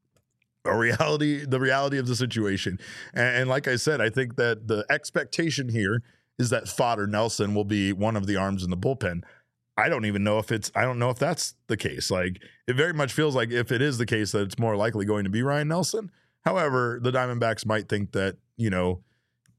a reality, the reality of the situation. And, and like I said, I think that the expectation here is that Pfaadt or Nelson will be one of the arms in the bullpen. I don't even know if it's, I don't know if that's the case. Like, it very much feels like if it is the case that it's more likely going to be Ryan Nelson. However, the Diamondbacks might think that, you know,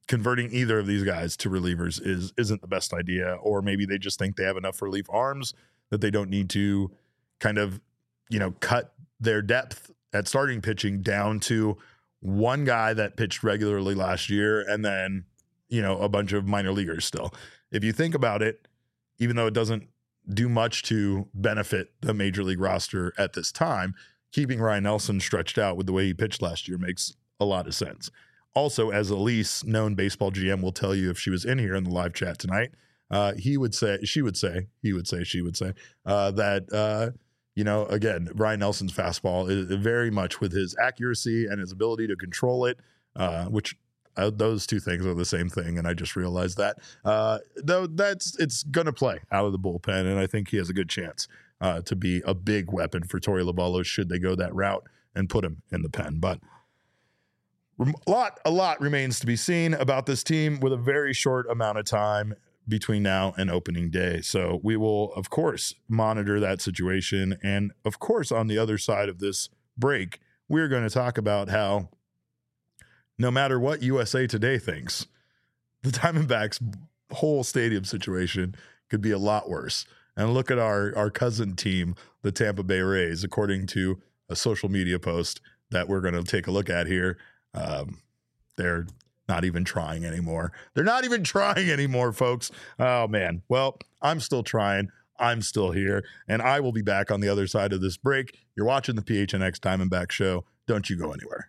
converting either of these guys to relievers is isn't the best idea, or maybe they just think they have enough relief arms that they don't need to kind of, you know, cut their depth at starting pitching down to one guy that pitched regularly last year and then, you know, a bunch of minor leaguers still. If you think about it, even though it doesn't do much to benefit the major league roster at this time, keeping Ryan Nelson stretched out with the way he pitched last year makes a lot of sense. Also, as Elise, known baseball G M, will tell you if she was in here in the live chat tonight, uh, he would say, she would say, he would say, she would say uh, that, uh, you know, again, Ryan Nelson's fastball is very much with his accuracy and his ability to control it, uh, which uh, those two things are the same thing. And I just realized that, uh, though that's, it's going to play out of the bullpen. And I think he has a good chance uh, to be a big weapon for Torey Lovullo should they go that route and put him in the pen. But a lot, a lot remains to be seen about this team with a very short amount of time between now and opening day. So we will, of course, monitor that situation. And of course, on the other side of this break, we're going to talk about how no matter what U S A Today thinks, the Diamondbacks' whole stadium situation could be a lot worse. And look at our, our cousin team, the Tampa Bay Rays, according to a social media post that we're going to take a look at here. Um, they're not even trying anymore. They're not even trying anymore, folks. Oh, man. Well, I'm still trying. I'm still here. And I will be back on the other side of this break. You're watching the P H N X Diamondback Show. Don't you go anywhere.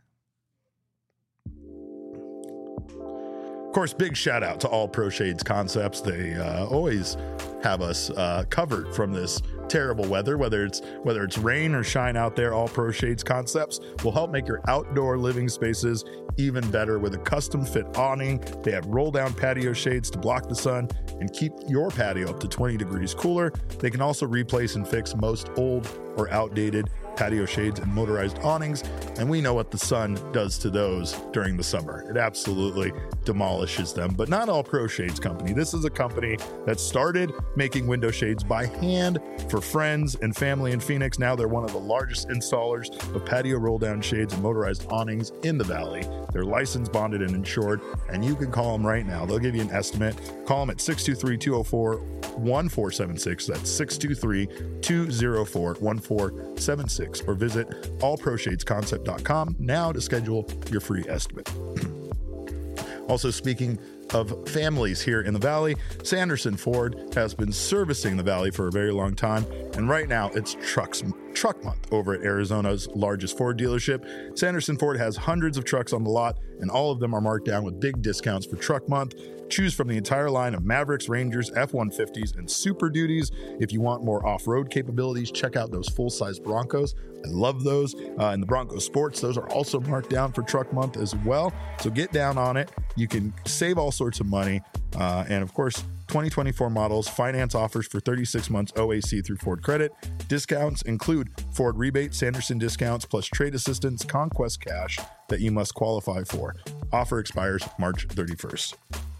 Of course, big shout out to All Pro Shades Concepts. They uh, always have us uh, covered from this terrible weather, whether it's whether it's rain or shine out there. All Pro Shades Concepts will help make your outdoor living spaces even better with a custom fit awning. They have roll down patio shades to block the sun and keep your patio up to twenty degrees cooler. They can also replace and fix most old or outdated patio shades and motorized awnings, and we know what the sun does to those during the summer. It absolutely demolishes them. But not All Pro Shades Company. This is a company that started making window shades by hand for friends and family in Phoenix. Now they're one of the largest installers of patio roll down shades and motorized awnings in the Valley. They're licensed, bonded, and insured, and you can call them right now. They'll give you an estimate. Call them at six two three, two oh four, one four seven six. That's six two three, two oh four, one four seven six. Or visit all pro shades concept dot com now to schedule your free estimate. Also, speaking of families here in the Valley, Sanderson Ford has been servicing the Valley for a very long time, and right now it's trucks truck month over at Arizona's largest Ford dealership. Sanderson Ford has hundreds of trucks on the lot, and all of them are marked down with big discounts for truck month. Choose from the entire line of Mavericks, Rangers, F one fifties, and Super Duties. If you want more off-road capabilities, check out those full-size Broncos. I love those. Uh, and the Bronco Sports, those are also marked down for truck month as well. So get down on it. You can save all sorts of money. Uh, and of course, twenty twenty-four models, finance offers for thirty-six months O A C through Ford Credit. Discounts include Ford rebate, Sanderson discounts, plus trade assistance, Conquest cash that you must qualify for. Offer expires March thirty-first.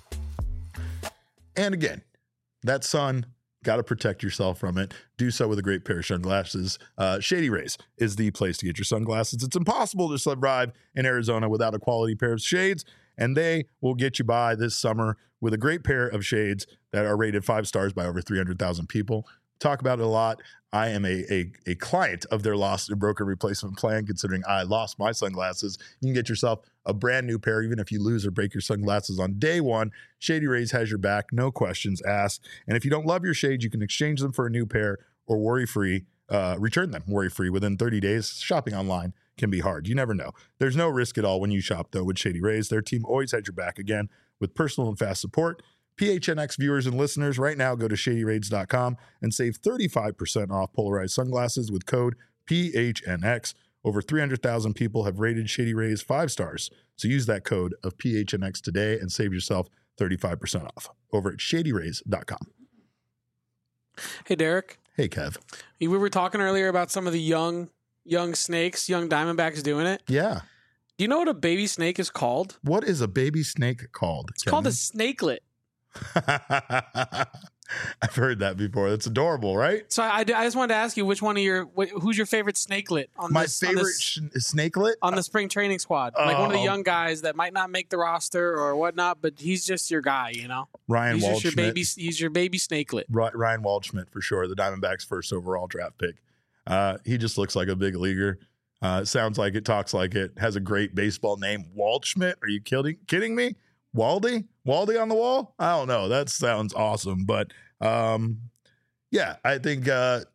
And again, that sun, got to protect yourself from it. Do so with a great pair of sunglasses. Uh, Shady Rays is the place to get your sunglasses. It's impossible to survive in Arizona without a quality pair of shades, and they will get you by this summer with a great pair of shades that are rated five stars by over three hundred thousand people. Talk about it a lot. I am a, a, a client of their lost and broken replacement plan, considering I lost my sunglasses. You can get yourself a brand new pair, even if you lose or break your sunglasses on day one. Shady Rays has your back, no questions asked. And if you don't love your shades, you can exchange them for a new pair or worry-free, uh, return them worry-free within thirty days. Shopping online can be hard. You never know. There's no risk at all when you shop, though, with Shady Rays. Their team always has your back, again, with personal and fast support. P H N X viewers and listeners, right now go to shady rays dot com and save thirty-five percent off polarized sunglasses with code P H N X. Over three hundred thousand people have rated Shady Rays five stars. So use that code of P H N X today and save yourself thirty-five percent off over at shady rays dot com. Hey, Derek. Hey, Kev. We were talking earlier about some of the young young snakes, young Diamondbacks doing it. Yeah. Do you know what a baby snake is called? What is a baby snake called? It's Kevin? called a snakelet. I've heard that before. That's adorable, right? So I, I just wanted to ask you which one of your wh- who's your favorite snakelet on My this, favorite on, this, sh- snakelet on the spring training squad, like one of the Oh. young guys that might not make the roster or whatnot, but he's just your guy, you know. Ryan He's just your Waldschmidt. baby. He's your baby snakelet. Ry- Ryan Waldschmidt for sure, the Diamondbacks' first overall draft pick. Uh, he just looks like a big leaguer. Uh, sounds like it, talks like it, has a great baseball name. Waldschmidt? Are you kidding kidding me? Waldy? Waldy on the wall? I don't know. That sounds awesome. But um, yeah, I think uh,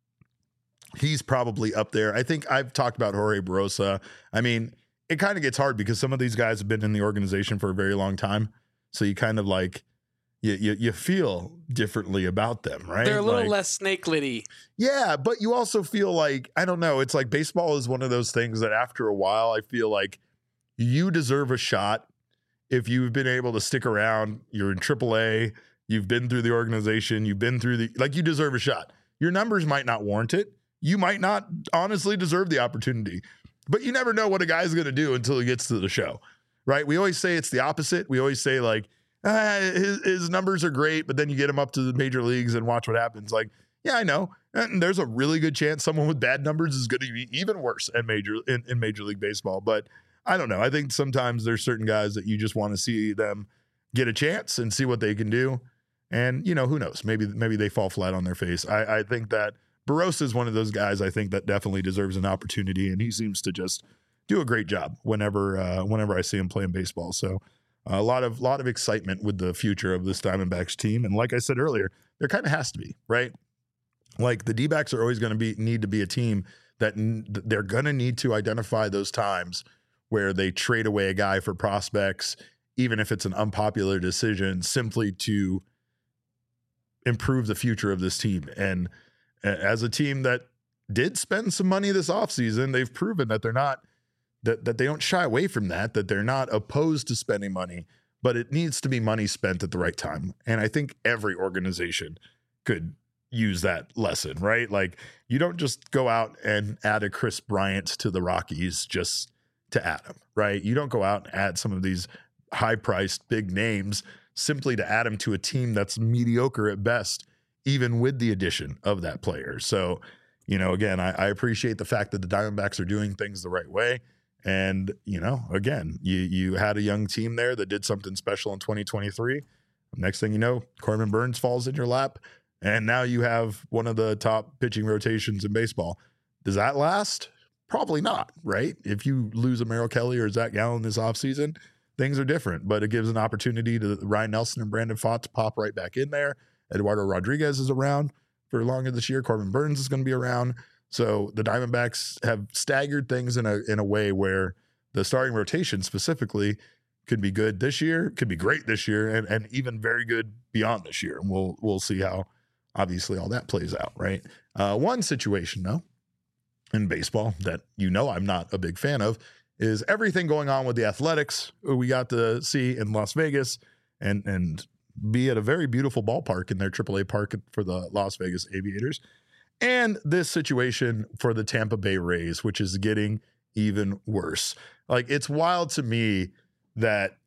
he's probably up there. I think I've talked about Jorge Barosa. I mean, it kind of gets hard because some of these guys have been in the organization for a very long time. So you kind of like, you, you, you feel differently about them, right? They're a little Like, less snakelet-y. yeah, but you also feel like, I don't know, it's like baseball is one of those things that after a while, I feel like you deserve a shot if you've been able to stick around. You're in triple A, you've been through the organization, you've been through the, like you deserve a shot. Your numbers might not warrant it. You might not honestly deserve the opportunity, but you never know what a guy's going to do until he gets to the show, right? We always say it's the opposite. We always say like, ah, his, his numbers are great, but then you get him up to the major leagues and watch what happens. Like, yeah, I know. And there's a really good chance someone with bad numbers is going to be even worse at major in, in Major League Baseball. But I don't know. I think sometimes there's certain guys that you just want to see them get a chance and see what they can do. And, you know, who knows? Maybe maybe they fall flat on their face. I, I think that Barosa is one of those guys I think that definitely deserves an opportunity, and he seems to just do a great job whenever uh, whenever I see him playing baseball. So a lot of lot of excitement with the future of this Diamondbacks team. And like I said earlier, there kind of has to be, right? Like the D-backs are always going to be need to be a team that n- they're going to need to identify those times where they trade away a guy for prospects, even if it's an unpopular decision, simply to improve the future of this team. And as a team that did spend some money this offseason, they've proven that they're not That, that they don't shy away from that, that they're not opposed to spending money, but it needs to be money spent at the right time. And I think every organization could use that lesson, right? Like you don't just go out and add a Chris Bryant to the Rockies just to add him, right? You don't go out and add some of these high-priced big names simply to add him to a team that's mediocre at best, even with the addition of that player. So, you know, again, I, I appreciate the fact that the Diamondbacks are doing things the right way. And, you know, again, you you had a young team there that did something special in twenty twenty-three. Next thing you know, Corbin Burnes falls in your lap, and now you have one of the top pitching rotations in baseball. Does that last? Probably not, right? If you lose a Merrill Kelly or Zach Gallen this offseason, things are different. But it gives an opportunity to Ryan Nelson and Brandon Pfaadt to pop right back in there. Eduardo Rodriguez is around for longer this year. Corbin Burnes is going to be around. So the Diamondbacks have staggered things in a in a way where the starting rotation specifically could be good this year, could be great this year, and, and even very good beyond this year. And we'll we'll see how obviously all that plays out, right? Uh, one situation though in baseball that you know I'm not a big fan of is everything going on with the Athletics, who we got to see in Las Vegas and and be at a very beautiful ballpark in their triple A park for the Las Vegas Aviators. And this situation for the Tampa Bay Rays, which is getting even worse. Like, it's wild to me that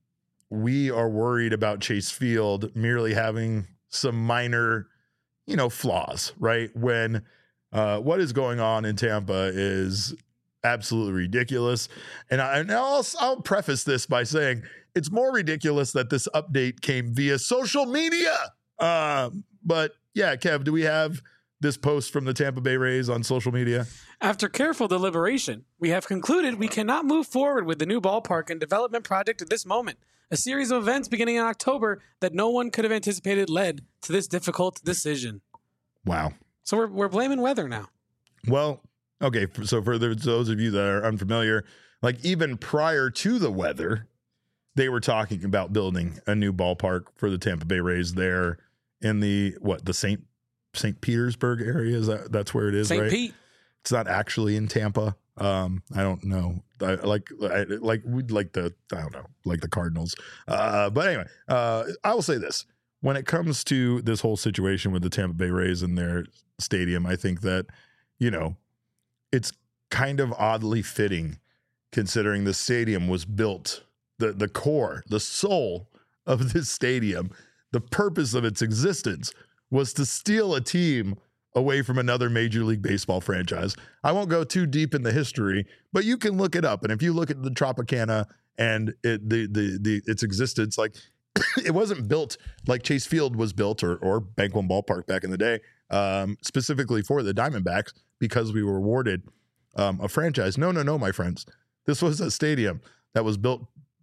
we are worried about Chase Field merely having some minor, you know, flaws, right? When uh, what is going on in Tampa is absolutely ridiculous. And, I, and I'll, I'll preface this by saying it's more ridiculous that this update came via social media. Uh, but yeah, Kev, do we have this post from the Tampa Bay Rays on social media? After careful deliberation, we have concluded we cannot move forward with the new ballpark and development project at this moment. A series of events beginning in October that no one could have anticipated led to this difficult decision. Wow. So we're we're blaming weather now. Well, okay. So for those of you that are unfamiliar, like even prior to the weather, they were talking about building a new ballpark for the Tampa Bay Rays there in the, what, the Saint Saint Petersburg area. Is that that's where it is, Saint right? Pete. It's not actually in Tampa. Um, I don't know. I like I, like we'd like the I don't know, like the Cardinals. Uh, but anyway, uh, I will say this: when it comes to this whole situation with the Tampa Bay Rays and their stadium, I think that, you know, it's kind of oddly fitting, considering the stadium was built, the the core, the soul of this stadium the purpose of its existence was to steal a team away from another Major League Baseball franchise. I won't go too deep in the history, but you can look it up. And if you look at the Tropicana and it, the, the, the, its existence, like it wasn't built like Chase Field was built or, or Bank One Ballpark back in the day, um, specifically for the Diamondbacks because we were awarded um, a franchise. No, no, no, my friends. This was a stadium that was built,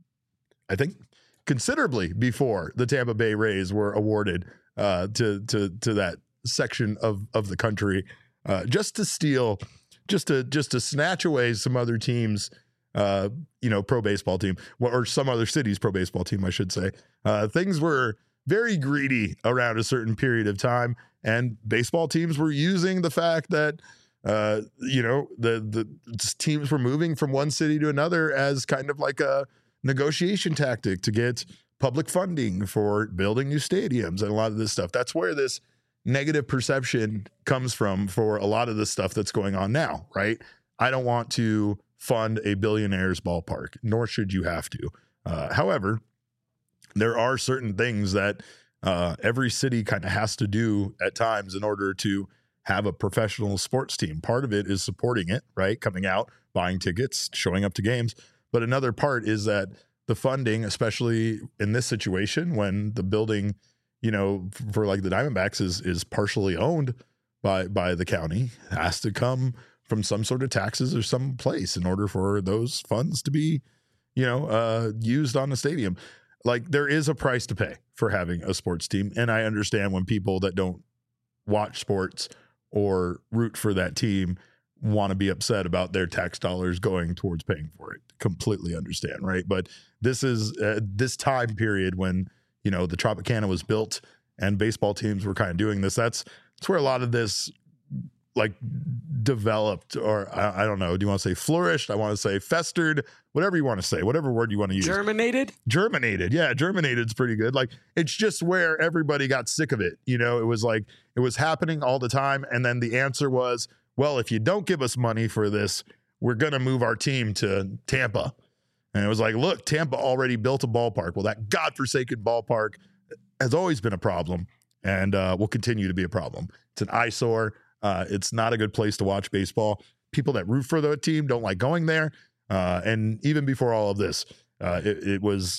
I think, considerably before the Tampa Bay Rays were awarded uh, to to to that section of of the country, uh, just to steal, just to just to snatch away some other teams, uh, you know, pro baseball team or some other city's pro baseball team, I should say. Uh, things were very greedy around a certain period of time, and baseball teams were using the fact that. Uh, you know, the the teams were moving from one city to another as kind of like a negotiation tactic to get public funding for building new stadiums and a lot of this stuff. That's where this negative perception comes from for a lot of the stuff that's going on now, right? I don't want to fund a billionaire's ballpark, nor should you have to. Uh, however, there are certain things that uh, every city kind of has to do at times in order to have a professional sports team. Part of it is supporting it, right? Coming out, buying tickets, showing up to games. But another part is that the funding, especially in this situation when the building, you know, for like the Diamondbacks is is partially owned by by the county, has to come from some sort of taxes or some place in order for those funds to be, you know, uh, used on the stadium. Like there is a price to pay for having a sports team. And I understand when people that don't watch sports or root for that team want to be upset about their tax dollars going towards paying for it. Completely understand, right? But this is uh, this time period when, you know, the Tropicana was built and baseball teams were kind of doing this. That's that's where a lot of this like developed, or I, I don't know. Do you want to say flourished? I want to say festered, whatever you want to say, whatever word you want to use. Germinated? Germinated. Yeah, germinated is pretty good. Like it's just where everybody got sick of it. You know, it was like it was happening all the time. And then the answer was, well, if you don't give us money for this, we're going to move our team to Tampa. And it was like, look, Tampa already built a ballpark. Well, that godforsaken ballpark has always been a problem and uh, will continue to be a problem. It's an eyesore. Uh, it's not a good place to watch baseball. People that root for the team don't like going there. Uh, and even before all of this, uh, it, it was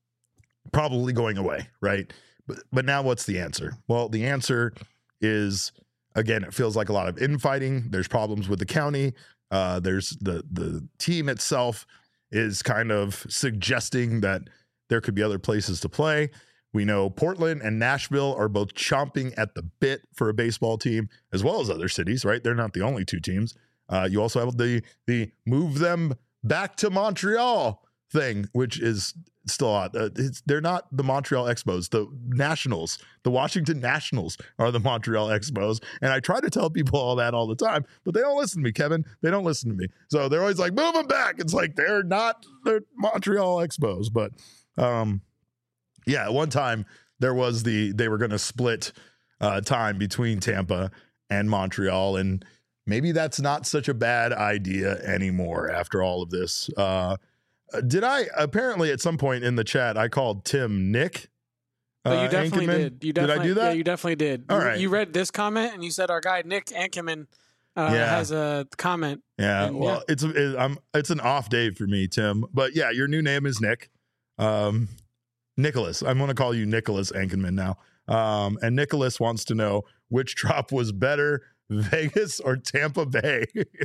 probably going away, right? But, but now what's the answer? Well, the answer is, again, it feels like a lot of infighting. There's problems with the county. Uh, there's the the team itself is kind of suggesting that there could be other places to play. We know Portland and Nashville are both chomping at the bit for a baseball team, as well as other cities, right? They're not the only two teams. Uh, you also have the the move them back to Montreal thing, which is still odd. Uh, it's, they're not the Montreal Expos. The Nationals, the Washington Nationals are the Montreal Expos. And I try to tell people all that all the time, but they don't listen to me, Kevin. They don't listen to me. So they're always like, move them back. It's like, they're not the Montreal Expos. But um, yeah, at one time there was the, they were going to split uh, time between Tampa and Montreal. And maybe that's not such a bad idea anymore after all of this. Uh, did I apparently at some point in the chat, I called Tim Nick? Uh, oh, you definitely Ankenman? did. You definitely, did I do that? Yeah, you definitely did. All you, right. You read this comment and you said our guy Nick Ankerman uh, Yeah. has a comment. Yeah, And, well, yeah. it's it, I'm it's an off day for me, Tim. But yeah, your new name is Nick, um, Nicholas. I'm going to call you Nicholas Ankenman now. Um, and Nicholas wants to know which drop was better, Vegas or Tampa Bay.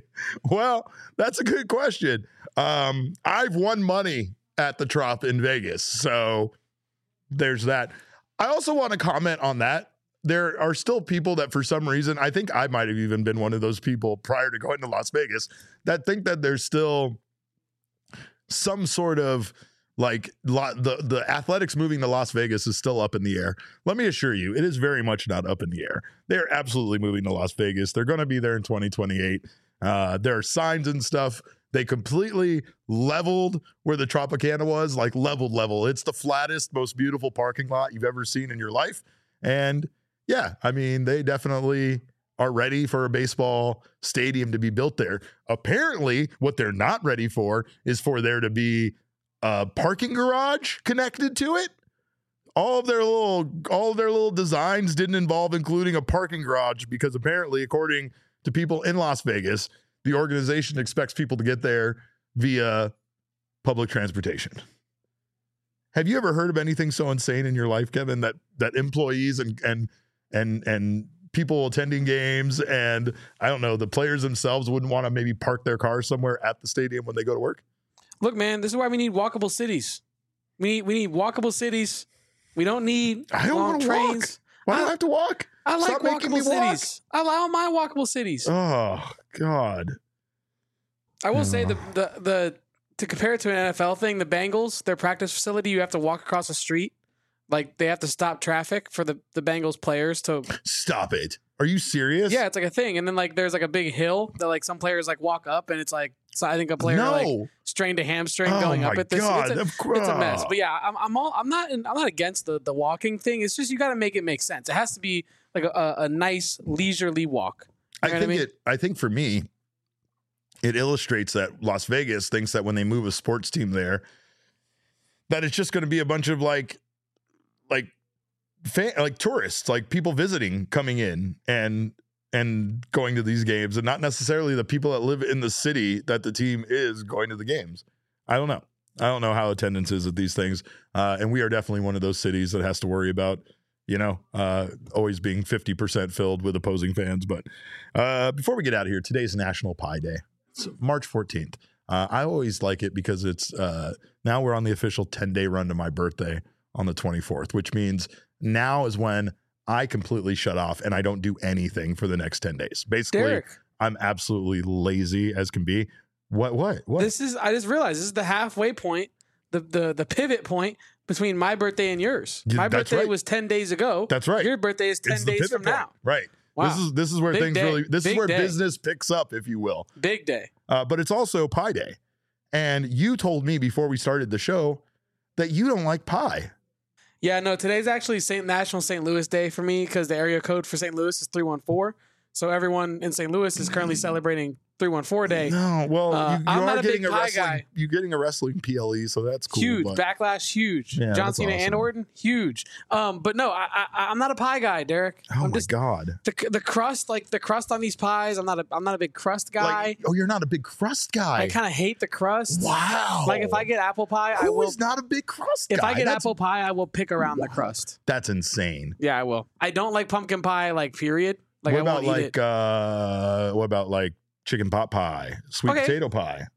Well, that's a good question. Um, I've won money at the Trop in Vegas, so there's that. I also want to comment on that. There are still people that for some reason, I think I might have even been one of those people prior to going to Las Vegas, that think that there's still some sort of like the, the athletics moving to Las Vegas is still up in the air. Let me assure you, it is very much not up in the air. They're absolutely moving to Las Vegas. They're going to be there in twenty twenty-eight. Uh, there are signs and stuff. They completely leveled where the Tropicana was, like leveled level. It's the flattest, most beautiful parking lot you've ever seen in your life. And yeah, I mean, they definitely are ready for a baseball stadium to be built there. Apparently, what they're not ready for is for there to be a parking garage connected to it. all of their little all of their little designs didn't involve including a parking garage because apparently, according to people in Las Vegas, the organization expects people to get there via public transportation. Have you ever heard of anything so insane in your life, Kevin, that that employees and and and and people attending games and I don't know, the players themselves wouldn't want to maybe park their cars somewhere at the stadium when they go to work? Look, man, this is why we need walkable cities. We need we need walkable cities. We don't need I don't long want to trains. walk. Why do I have to walk? I like Stop making me walkable cities. I allow my walkable cities. Oh God. I will say Oh. the, the the to compare it to an N F L thing, the Bengals, their practice facility, you have to walk across the street. Like they have to stop traffic for the, the Bengals players to Stop it. Are you serious? Yeah, it's like a thing. And then like there's like a big hill that like some players like walk up and it's like so I think a player No. like strained a hamstring Oh going up my at this. God, It's, a, of course. it's a mess. But yeah, I'm I'm all I'm not I'm not against the the walking thing. It's just you got to make it make sense. It has to be like a, a, a nice leisurely walk. You I know think what I mean? it I think for me, it illustrates that Las Vegas thinks that when they move a sports team there, that it's just going to be a bunch of like, like, fan, like tourists, like people visiting, coming in and and going to these games, and not necessarily the people that live in the city that the team is going to the games. I don't know. I don't know how attendance is at these things, uh, and we are definitely one of those cities that has to worry about, you know, uh, always being fifty percent filled with opposing fans. But uh, before we get out of here, today's National Pie Day. It's March fourteenth. Uh, I always like it because it's uh, now we're on the official ten-day run to my birthday on the twenty-fourth, which means now is when I completely shut off and I don't do anything for the next ten days. Basically, Derek, I'm absolutely lazy as can be. What, what, what? this is I just realized this is the halfway point, the the the pivot point between my birthday and yours. Yeah, My that's birthday right. was ten days ago. That's right. Your birthday is ten It's the days pivot from point. now. Right. Wow. This is this is where Big things day. really this Big is where day. business picks up, if you will. Big day. Uh, but it's also Pie Day. And you told me before we started the show that you don't like pie. Yeah, no, today's actually Saint National Saint Louis Day for me because the area code for Saint Louis is three one four. So everyone in Saint Louis is currently celebrating three one four Day. No, well, Uh, you, you I'm are not a getting big a pie wrestling. guy. You're getting a wrestling P L E, so that's cool. Huge but- backlash, huge. Yeah, John that's Cena awesome. and Orton, huge. Um, but no, I, I, I'm not a pie guy, Derek. Oh I'm my just god! the the crust, like the crust on these pies. I'm not a I'm not a big crust guy. Like, oh, you're not a big crust guy. I kind of hate the crust. Wow. Like if I get apple pie, I Who will. is not a big crust If guy? I get That's- apple pie, I will pick around the crust. that's insane. Yeah, I will. I don't like pumpkin pie. Like period. Like what I about won't eat like it. uh, what about like chicken pot pie, sweet Okay. potato pie?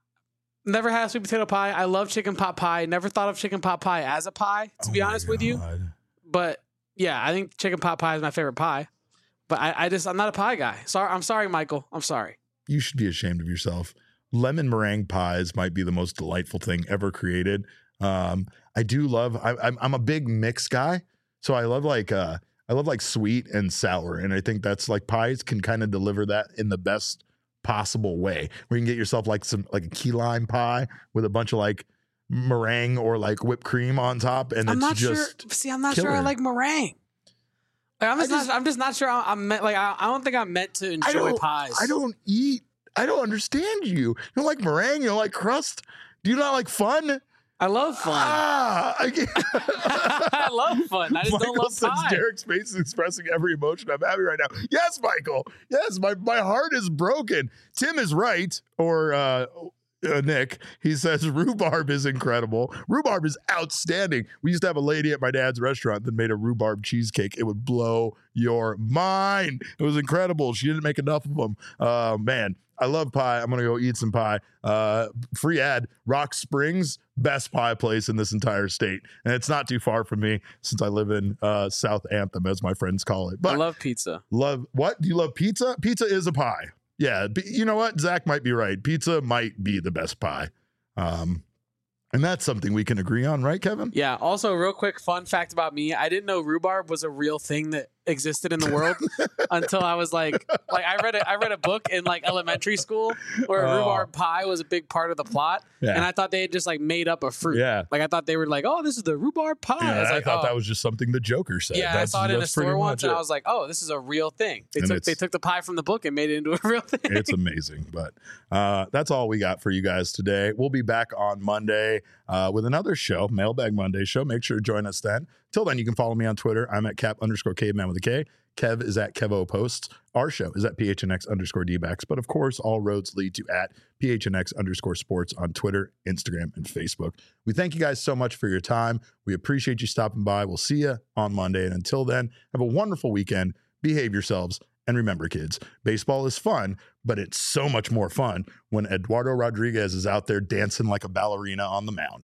Never had sweet potato pie. I love chicken pot pie. Never thought of chicken pot pie as a pie, to be Oh my honest with you. God. But yeah, I think chicken pot pie is my favorite pie. But I, I just I'm not a pie guy. Sorry, I'm sorry, Michael. I'm sorry. You should be ashamed of yourself. Lemon meringue pies might be the most delightful thing ever created. Um, I do love. I, I'm I'm a big mix guy, so I love like uh, I love like sweet and sour, and I think that's like pies can kind of deliver that in the best possible way. Where you can get yourself like some like a key lime pie with a bunch of like meringue or like whipped cream on top, and I'm it's not just sure. See, I'm not sure I killer. like meringue. Like, I'm just, I just- not. I'm just not sure. I'm, I'm meant, like I, I don't think I'm meant to I enjoy don't, pies. I don't eat. I don't understand you. You don't like meringue. You don't like crust. Do you not like fun? I love fun. Ah, I, can't- I love fun. I just don't Michael love says pie. Derek's face is expressing every emotion I'm having right now. Yes, Michael. Yes, my, my heart is broken. Tim is right, or uh, uh, Nick. He says rhubarb is incredible. Rhubarb is outstanding. We used to have a lady at my dad's restaurant that made a rhubarb cheesecake. It would blow your mind. It was incredible. She didn't make enough of them. Uh, man, I love pie. I'm gonna go eat some pie. Uh, free ad. Rock Springs, best pie place in this entire state, and it's not too far from me since I live in uh, South Anthem, as my friends call it. But I love pizza. love what? Do you love pizza? Pizza is a pie. Yeah, p- you know what? Zach might be right. Pizza might be the best pie, um, and that's something we can agree on, right, Kevin? Yeah. Also, real quick fun fact about me: I didn't know rhubarb was a real thing that existed in the world until I was like, like I read a, I read a book in like elementary school where Oh. rhubarb pie was a big part of the plot, Yeah. and I thought they had just like made up a fruit. Yeah. Like I thought they were like, oh, this is the rhubarb pie. Yeah, I was I like, thought oh. that was just something the Joker said. Yeah, That's- I saw it in a that's pretty store once, much and it. I was like, "Oh, this is a real thing." They And took it's- they took the pie from the book and made it into a real thing. It's amazing. But uh, that's all we got for you guys today. We'll be back on Monday uh, with another show, Mailbag Monday show. Make sure to join us then. Till then, you can follow me on Twitter. I'm at cap underscore caveman with a K. Kev is at Kevo Posts. Our show is at P H N X underscore D-backs. But of course, all roads lead to at P H N X underscore sports on Twitter, Instagram, and Facebook. We thank you guys so much for your time. We appreciate you stopping by. We'll see you on Monday. And until then, have a wonderful weekend. Behave yourselves. And remember, kids, baseball is fun, but it's so much more fun when Eduardo Rodriguez is out there dancing like a ballerina on the mound.